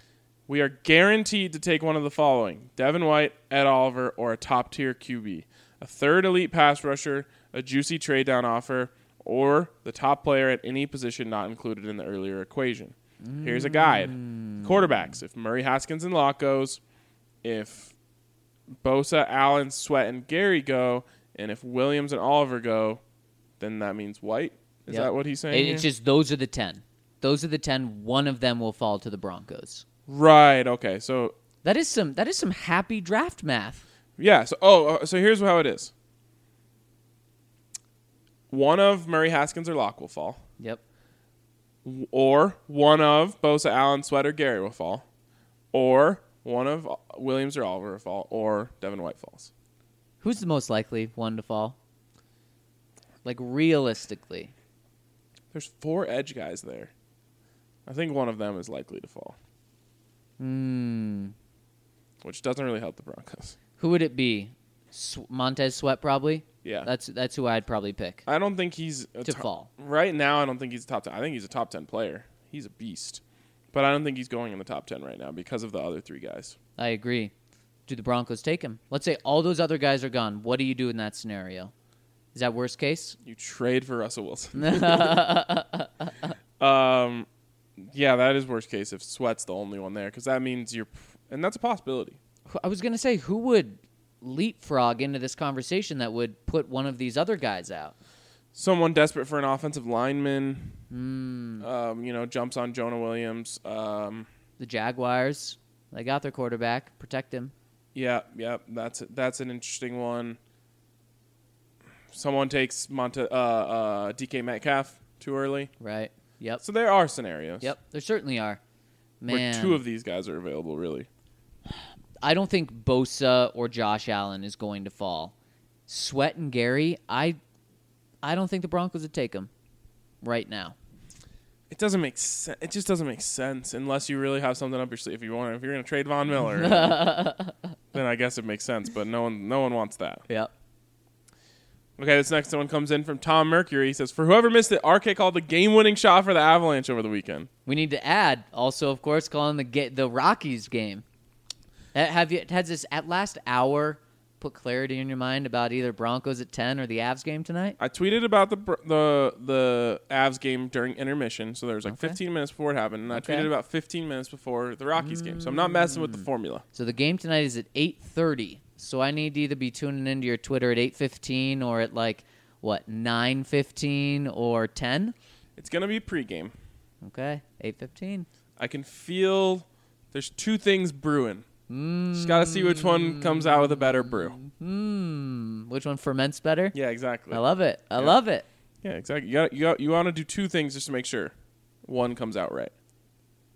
we are guaranteed to take one of the following: Devin White, Ed Oliver, or a top-tier Q B. A third elite pass rusher, a juicy trade-down offer, or the top player at any position not included in the earlier equation. Mm. Here's a guide. Quarterbacks: if Murray, Haskins, and Locke goes, if Bosa, Allen, Sweat, and Gary go, and if Williams and Oliver go, then that means White. Is Yep. that what he's saying? It's here? just those are the ten. Those are the ten. One of them will fall to the Broncos. Right. Okay. So That is some that is some happy draft math. yeah. So oh, uh, so here's how it is. One of Murray, Haskins, or Locke will fall, Yep. w- or one of Bosa, Allen, Sweat, or Gary will fall, or one of uh, Williams or Oliver will fall, or Devin White falls. Who's the most likely one to fall? Like realistically. There's four edge guys there. I think one of them is likely to fall, Hmm. which doesn't really help the Broncos. Who would it be? S- Montez Sweat probably. Yeah. That's that's who I'd probably pick I don't think he's a to top- fall. Right now, I don't think he's a top ten. I think he's a top ten player. He's a beast. But I don't think he's going in the top ten right now because of the other three guys. I agree. Do the Broncos take him? Let's say all those other guys are gone. What do you do in that scenario? Is that worst case? You trade for Russell Wilson. um, yeah, that is worst case if Sweat's the only one there because that means you're – and that's a possibility. I was going to say, who would leapfrog into this conversation that would put one of these other guys out? Someone desperate for an offensive lineman, Mm, um, you know, jumps on Jonah Williams. Um, the Jaguars, they got their quarterback. Protect him. yeah, yeah, that's that's an interesting one. Someone takes Monte, uh, uh, D K Metcalf too early. Right. Yep. So there are scenarios. Yep. There certainly are. Where Man, two of these guys are available, really. I don't think Bosa or Josh Allen is going to fall. Sweat and Gary, I, I don't think the Broncos would take them right now. It doesn't make sense. It just doesn't make sense unless you really have something up your sleeve. If you want, if you're going to trade Von Miller, then I guess it makes sense. But no one, no one wants that. Yep. Okay, this next one comes in from Tom Mercury. He says, "For whoever missed it, R K called the game-winning shot for the Avalanche over the weekend." We need to add also, of course, calling the ga- the Rockies game. Ha- Have you has this at last hour put clarity in your mind about either Broncos at ten or the Avs game tonight? I tweeted about the Br- the the Avs game during intermission, so there was like Okay. fifteen minutes before it happened, and I Okay. tweeted about fifteen minutes before the Rockies game. So I'm not messing with the formula. So the game tonight is at eight thirty. So I need to either be tuning into your Twitter at eight fifteen or at like what nine fifteen or ten. It's gonna be pregame. Okay, eight fifteen. I can feel there's two things brewing. Just got to see which one comes out with a better brew. Hmm. Which one ferments better? Yeah, exactly. I love it. I Yeah. love it. Yeah, exactly. You got you got, you want to do two things just to make sure one comes out right.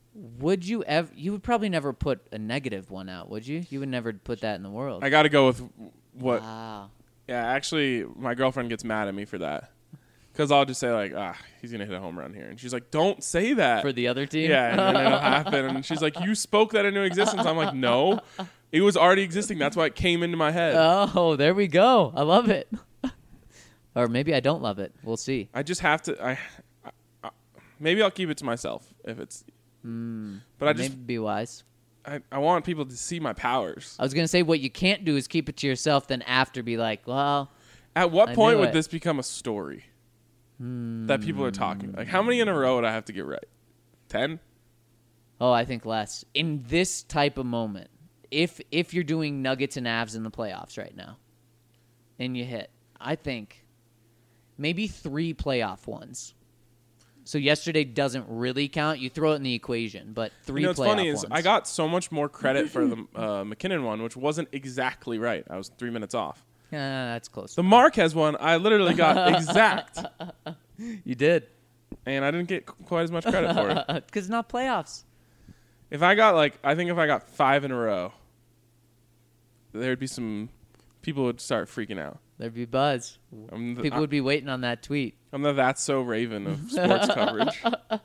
Would you ever? You would probably never put a negative one out, would you? You would never put that in the world. I got to go with what. Wow. Yeah, actually, my girlfriend gets mad at me for that. Because I'll just say, like, ah, he's going to hit a home run here. And she's like, don't say that. For the other team? Yeah, and then it'll happen. And she's like, you spoke that into existence. I'm like, no. It was already existing. That's why it came into my head. Oh, there we go. I love it. Or maybe I don't love it. We'll see. I just have to. I, I, I Maybe I'll keep it to myself if it's. Mm, but I just. Maybe be wise. I, I want people to see my powers. I was going to say what you can't do is keep it to yourself, then after be like, well. At what I point knew would it. this become a story? That people are talking. Like, how many in a row would I have to get right? Ten? Oh, I think less. In this type of moment, if if you're doing Nuggets and Avs in the playoffs right now, and you hit, I think maybe three playoff ones. So yesterday doesn't really count. You throw it in the equation, but three You know, what's playoff funny ones. is I got so much more credit for the uh, McKinnon one, which wasn't exactly right. I was three minutes off. Ah, that's close. The Marquez one, I literally got exact. You did. And I didn't get qu- quite as much credit for it. Because it's not playoffs. If I got, like, I think if I got five in a row, there'd be some people would start freaking out. There'd be buzz. I'm the, People I, would be waiting on that tweet. I'm the That's So Raven of sports coverage.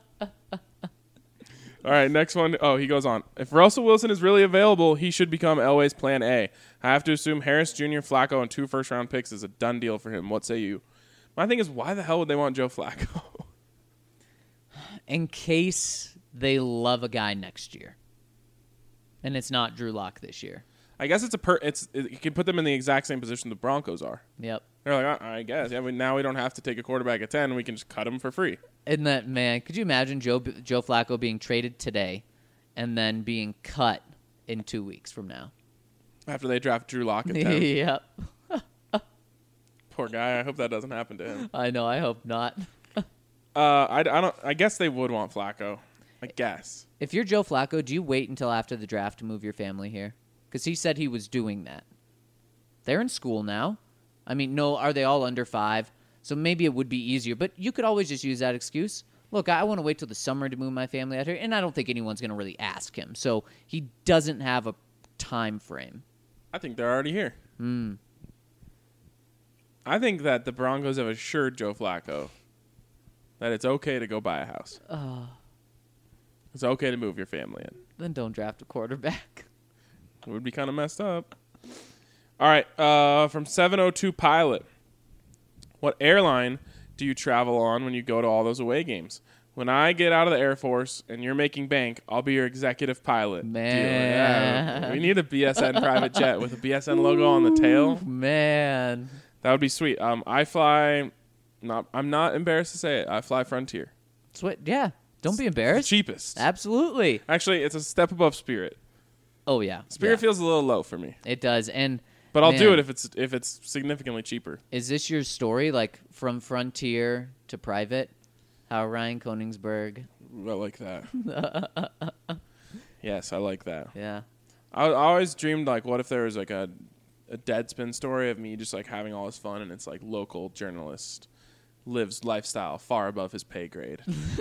All right, next one. Oh, he goes on. If Russell Wilson is really available, he should become Elway's plan A. I have to assume Harris Junior, Flacco, and two first-round picks is a done deal for him. What say you? My thing is, why the hell would they want Joe Flacco? In case they love a guy next year. And it's not Drew Lock this year. I guess it's a per. It's it, you can put them in the exact same position the Broncos are. Yep. They're like, uh, I guess. Yeah, we, now we don't have to take a quarterback at ten. We can just cut him for free. Isn't that, man, could you imagine Joe Joe Flacco being traded today and then being cut in two weeks from now? After they draft Drew Lock at ten. Yep. Poor guy. I hope that doesn't happen to him. I know. I hope not. Uh, I, I don't. I guess they would want Flacco. I guess. If you're Joe Flacco, do you wait until after the draft to move your family here? Because he said he was doing that. They're in school now. I mean, no, are they all under five? So maybe it would be easier. But you could always just use that excuse. Look, I want to wait till the summer to move my family out here, and I don't think anyone's going to really ask him. So he doesn't have a time frame. I think they're already here. Hmm. I think that the Broncos have assured Joe Flacco that it's okay to go buy a house. Uh, It's okay to move your family in. then don't draft a quarterback. It would be kind of messed up. All right, uh, from seven oh two Pilot. What airline do you travel on when you go to all those away games? When I get out of the Air Force and you're making bank, I'll be your executive pilot. Man. Yeah, we need a B S N private jet with a B S N logo on the tail. Man. That would be sweet. Um, I fly. Not. I'm not embarrassed to say it. I fly Frontier. Sweet. Yeah. Don't be embarrassed. Cheapest. Absolutely. Actually, it's a step above Spirit. Oh, yeah. Spirit yeah. feels a little low for me, It does. And but I'll do man, it if it's if it's significantly cheaper. Is this your story, like from Frontier to private? How Ryan Koenigsberg. I like that. Yes, I like that. Yeah. I, I always dreamed like, what if there was like a a Deadspin story of me just like having all this fun, and it's like local journalist lives lifestyle far above his pay grade,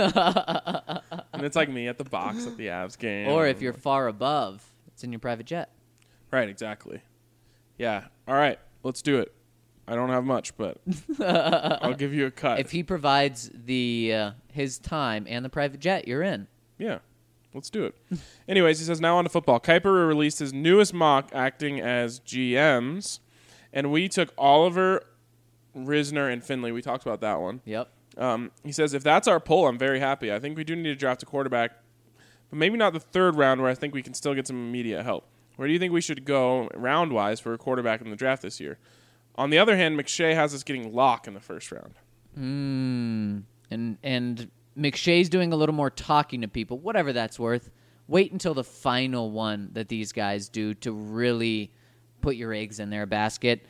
and it's like me at the box at the Avs game. Or if you're far above, it's in your private jet. right, exactly. Yeah. All right, let's do it. I don't have much, but I'll give you a cut. If he provides the uh, his time and the private jet, you're in. Yeah. Let's do it. Anyways, he says, now on to football. Kuiper released his newest mock acting as G Ms, and we took Oliver, Risner, and Finley. We talked about that one. Yep. Um, he says, if that's our poll, I'm very happy. I think we do need to draft a quarterback, but maybe not the third round where I think we can still get some immediate help. Where do you think we should go round-wise for a quarterback in the draft this year? On the other hand, McShay has us getting Locke in the first round. Mm. And and McShay's doing a little more talking to people, whatever that's worth. Wait until the final one that these guys do to really put your eggs in their basket.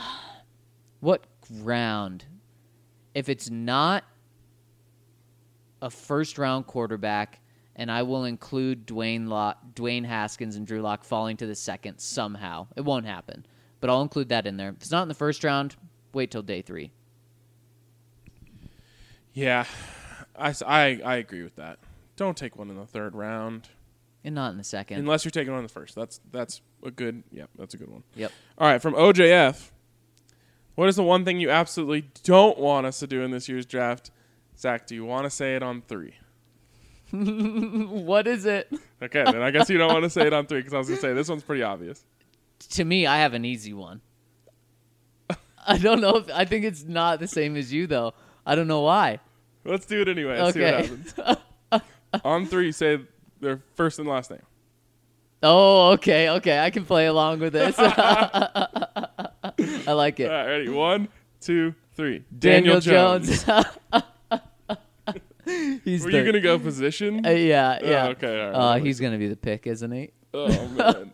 What round? If it's not a first-round quarterback, and I will include Dwayne Lock, Dwayne Haskins and Drew Lock falling to the second somehow. It won't happen, but I'll include that in there. If it's not in the first round, wait till day three. Yeah, I, I, I agree with that. don't take one in the third round. And not in the second. Unless you're taking one in the first. That's that's a good, yep, that's a good one. Yep. All right, from O J F, what is the one thing you absolutely don't want us to do in this year's draft? Zach, do you want to say it on three? What is it? Okay, then I guess you don't want to say it on three because I was going to say this one's pretty obvious. To me, I have an easy one. I don't know if I think it's not the same as you though. I don't know why. Let's do it anyway. Let's Okay. see what happens. On three, say their first and last name. Oh, okay, okay. I can play along with this. I like it. All right, ready? One, two, three. Daniel, Daniel, Jones. He's Were the, you going to go position? Uh, yeah, Oh, yeah. okay, all right. Uh, he's gonna be the pick, isn't he? Oh, man.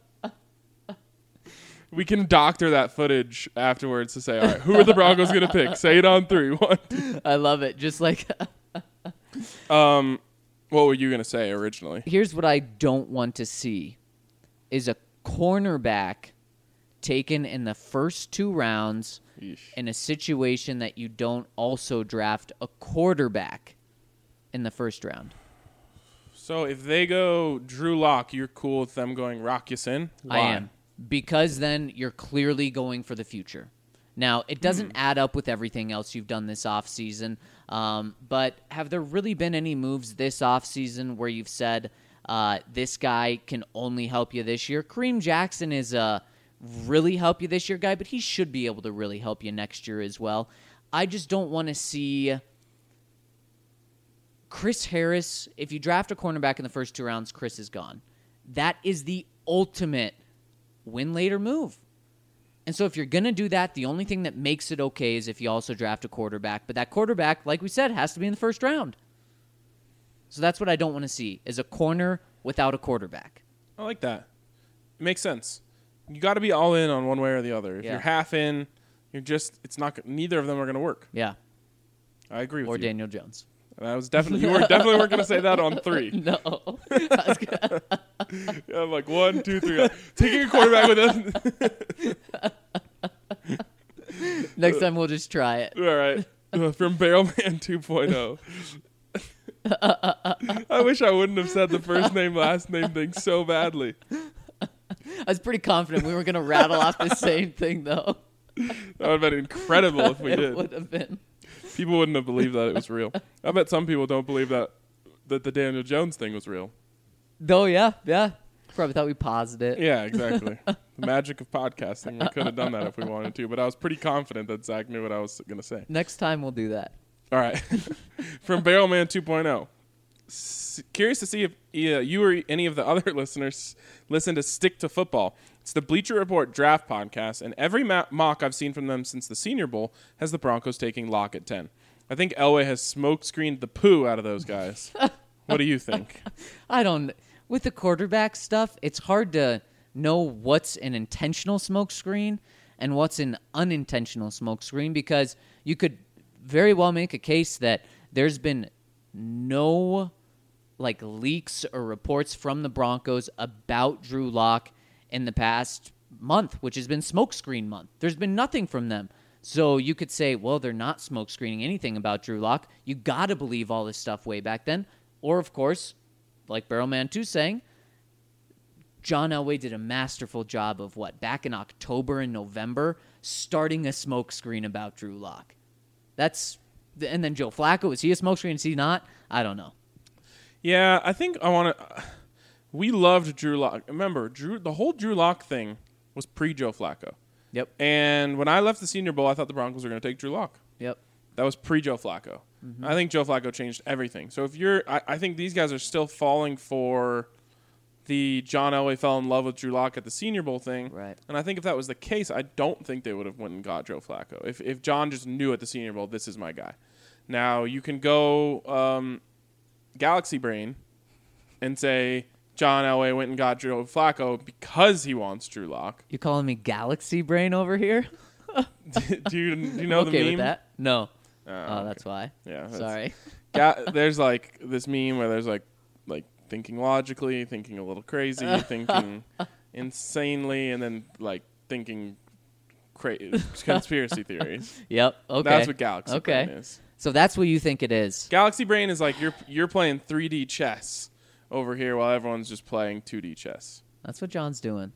We can doctor that footage afterwards to say, all right, who are the Broncos going to pick? Say it on three. One, two. I love it. Just like Um, what were you going to say originally? here's what I don't want to see is a cornerback taken in the first two rounds Yeesh. in a situation that you don't also draft a quarterback in the first round. So if they go Drew Lock, you're cool with them going Rock Ya-Sin? I Why? am. Because then you're clearly going for the future. Now, it doesn't add up with everything else you've done this offseason, um, but have there really been any moves this offseason where you've said, uh, this guy can only help you this year? Kareem Jackson is a really help you this year guy, but he should be able to really help you next year as well. I just don't want to see Chris Harris. If you draft a cornerback in the first two rounds, Chris is gone. That is the ultimate win later move. And so if you're going to do that, the only thing that makes it okay is if you also draft a quarterback. But that quarterback, like we said, has to be in the first round. So that's what I don't want to see, is a corner without a quarterback. I like that. It makes sense. You got to be all in on one way or the other. If Yeah. you're half in, you're just, it's not, neither of them are going to work. Yeah. I agree with Or you. Daniel Jones. That was definitely, you were definitely weren't going to say that on three. No. I was gonna- Yeah, I'm like one, two, three. Taking a quarterback with us. Next time we'll just try it. All right. Uh, from Barrelman two point oh. I wish I wouldn't have said the first name, last name thing so badly. I was pretty confident we were going to rattle off the same thing, though. That would have been incredible if we It did. would have been. People wouldn't have believed that it was real. I bet some people don't believe that that the Daniel Jones thing was real. Oh, yeah, yeah. Probably thought we paused it. Yeah, exactly. The magic of podcasting. We could have done that if we wanted to, but I was pretty confident that Zach knew what I was going to say. Next time we'll do that. All right. From Barrelman two point oh. S- curious to see if uh, you or any of the other listeners listen to Stick to Football. It's the Bleacher Report draft podcast, and every ma- mock I've seen from them since the Senior Bowl has the Broncos taking Locke at ten. I think Elway has smoke screened the poo out of those guys. What do you think? I don't. With the quarterback stuff, it's hard to know what's an intentional smoke screen and what's an unintentional smoke screen, because you could very well make a case that there's been no like leaks or reports from the Broncos about Drew Lock in the past month, which has been smoke screen month. There's been nothing from them. So you could say, well, they're not smoke screening anything about Drew Lock. You got to believe all this stuff way back then. Or, of course, like Barrelman two saying, John Elway did a masterful job of what, back in October and November, starting a smoke screen about Drew Lock. That's, and then Joe Flacco, is he a smoke screen? Is he not? I don't know. Yeah, I think I want to. We loved Drew Lock. Remember, Drew. The whole Drew Lock thing was pre-Joe Flacco. Yep. And when I left the Senior Bowl, I thought the Broncos were going to take Drew Lock. Yep. That was pre-Joe Flacco. Mm-hmm. I think Joe Flacco changed everything. So if you're, I, I think these guys are still falling for the John Elway fell in love with Drew Lock at the Senior Bowl thing. Right. And I think if that was the case, I don't think they would have went and got Joe Flacco. If if John just knew at the Senior Bowl, this is my guy. Now you can go um, Galaxy Brain and say John Elway went and got Joe Flacco because he wants Drew Lock. You calling me Galaxy Brain over here? do, you, do you know okay the meme? with that? No. Oh, Oh, okay. that's why. Yeah. that's- Sorry. Ga- there's like this meme where there's like like thinking logically, thinking a little crazy, thinking insanely, and then like thinking cra- conspiracy theories. Yep. Okay. That's what Galaxy okay. Brain is. So that's what you think it is. Galaxy Brain is like you're you're playing three D chess over here while everyone's just playing two D chess. That's what John's doing.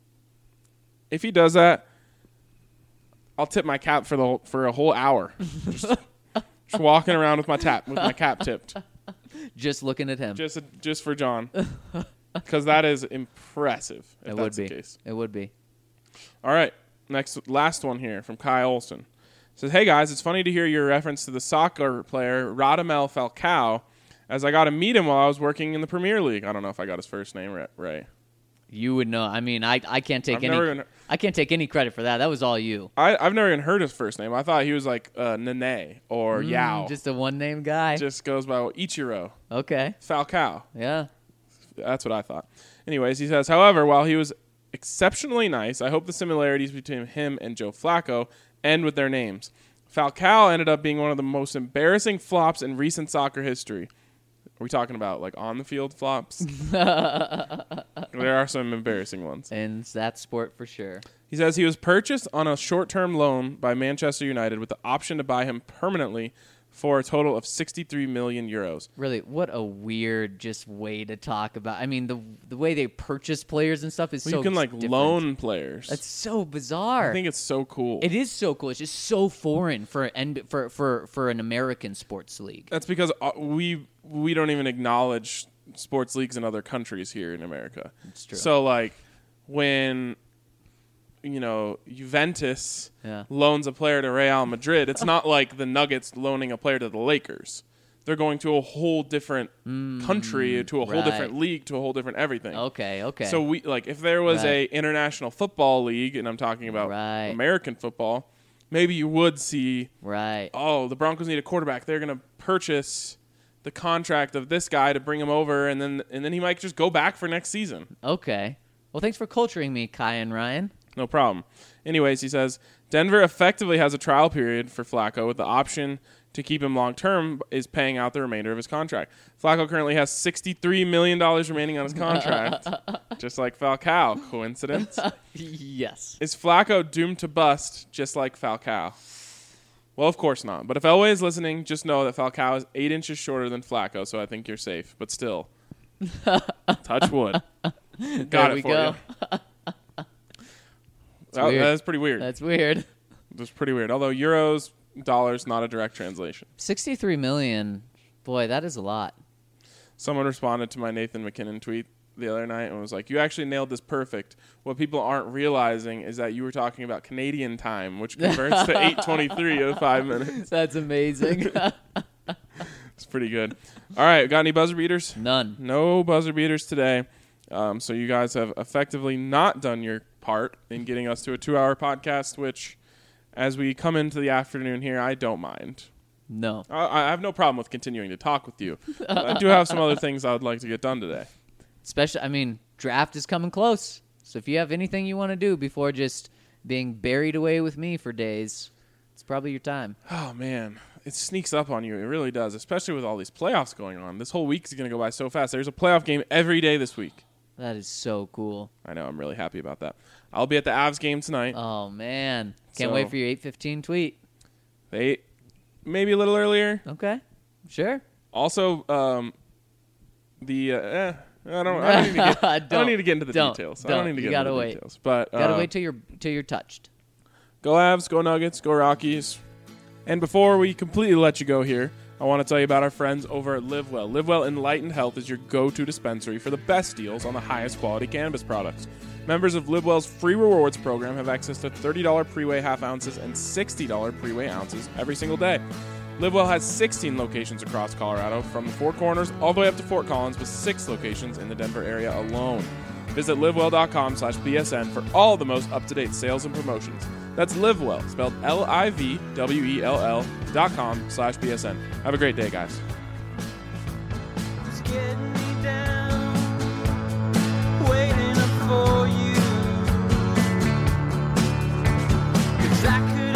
If he does that, I'll tip my cap for the whole, for a whole hour. Just, just walking around with my tap with my cap tipped. Just looking at him. Just just for John. Because that is impressive, if it that's would be. the case. It would be. All right. Next, last one here from Kai Olson. Says, hey, guys, it's funny to hear your reference to the soccer player Radamel Falcao, as I got to meet him while I was working in the Premier League. I don't know if I got his first name right. right. You would know. I mean, I, I can't take I've any never even, I can't take any credit for that. That was all you. I, I've never even heard his first name. I thought he was like uh, Nene or Mm, Yao. Just a one-name guy. Just goes by Ichiro. Okay. Falcao. Yeah. That's what I thought. Anyways, he says, however, while he was exceptionally nice, I hope the similarities between him and Joe Flacco end with their names. Falcao ended up being one of the most embarrassing flops in recent soccer history. Are we talking about like on the field flops? There are some embarrassing ones. And that sport for sure. He says he was purchased on a short-term loan by Manchester United with the option to buy him permanently for a total of sixty-three million euros. Really, what a weird just way to talk about. I mean, the the way they purchase players and stuff is Well, so you can like different. loan players. That's so bizarre. I think it's so cool. It is so cool. It's just so foreign for an for for for an American sports league. That's because uh, we we don't even acknowledge sports leagues in other countries here in America. It's true. So like when you know Juventus Yeah. loans a player to Real Madrid, it's not like the Nuggets loaning a player to the Lakers. They're going to a whole different country, to a whole right. different league, to a whole different everything. Okay, okay. So we like if there was a Right. international football league, and I'm talking about Right. American football, maybe you would see right. oh, the Broncos need a quarterback. They're going to purchase the contract of this guy to bring him over, and then and then he might just go back for next season. Okay. Well, thanks for culturing me, Kai and Ryan. No problem. Anyways, he says, Denver effectively has a trial period for Flacco with the option to keep him long-term is paying out the remainder of his contract. Flacco currently has sixty-three million dollars remaining on his contract, just like Falcao. Coincidence? Yes. Is Flacco doomed to bust just like Falcao? Well, of course not. But if Elway is listening, just know that Falcao is eight inches shorter than Flacco, so I think you're safe. But still, touch wood. Got There it we for go. you. That, weird. that's pretty weird. That's weird. That's pretty weird. Although euros, dollars, not a direct translation. sixty-three million. Boy, that is a lot. Someone responded to my Nathan McKinnon tweet the other night and was like, you actually nailed this perfect. What people aren't realizing is that you were talking about Canadian time, which converts to eight twenty-three in five minutes. That's amazing. It's pretty good. All right, got any buzzer beaters? None. No buzzer beaters today. Um, so you guys have effectively not done your part in getting us to a two-hour podcast, which, as we come into the afternoon here, I don't mind. No. I, I have no problem with continuing to talk with you. I do have some other things I would like to get done today. Especially, I mean, draft is coming close. So if you have anything you want to do before just being buried away with me for days, it's probably your time. Oh, man. It sneaks up on you. It really does, especially with all these playoffs going on. This whole week is going to go by so fast. There's a playoff game every day this week. That is so cool. I know. I'm really happy about that. I'll be at the Avs game tonight. Oh, man. Can't So- wait for your eight fifteen tweet. They maybe a little earlier. Okay. Sure. Also, um, the uh, eh, I don't. I don't need to get. I don't Don't. need to get into the Don't. details. I Don't. don't need to You get into gotta the wait. details. But Gotta uh, wait till you're till you're touched. Go Avs, go Nuggets, go Rockies. And before we completely let you go here, I want to tell you about our friends over at LiveWell. LiveWell Enlightened Health is your go-to dispensary for the best deals on the highest quality cannabis products. Members of LiveWell's free rewards program have access to thirty dollars pre-weigh half ounces and sixty dollars pre-weigh ounces every single day. LiveWell has sixteen locations across Colorado, from the Four Corners all the way up to Fort Collins, with six locations in the Denver area alone. Visit livewell.com slash BSN for all the most up-to-date sales and promotions. That's LiveWell, spelled L I V W E L L dot com slash B S N. Have a great day, guys. It's getting me down, waiting up for you. 'Cause I could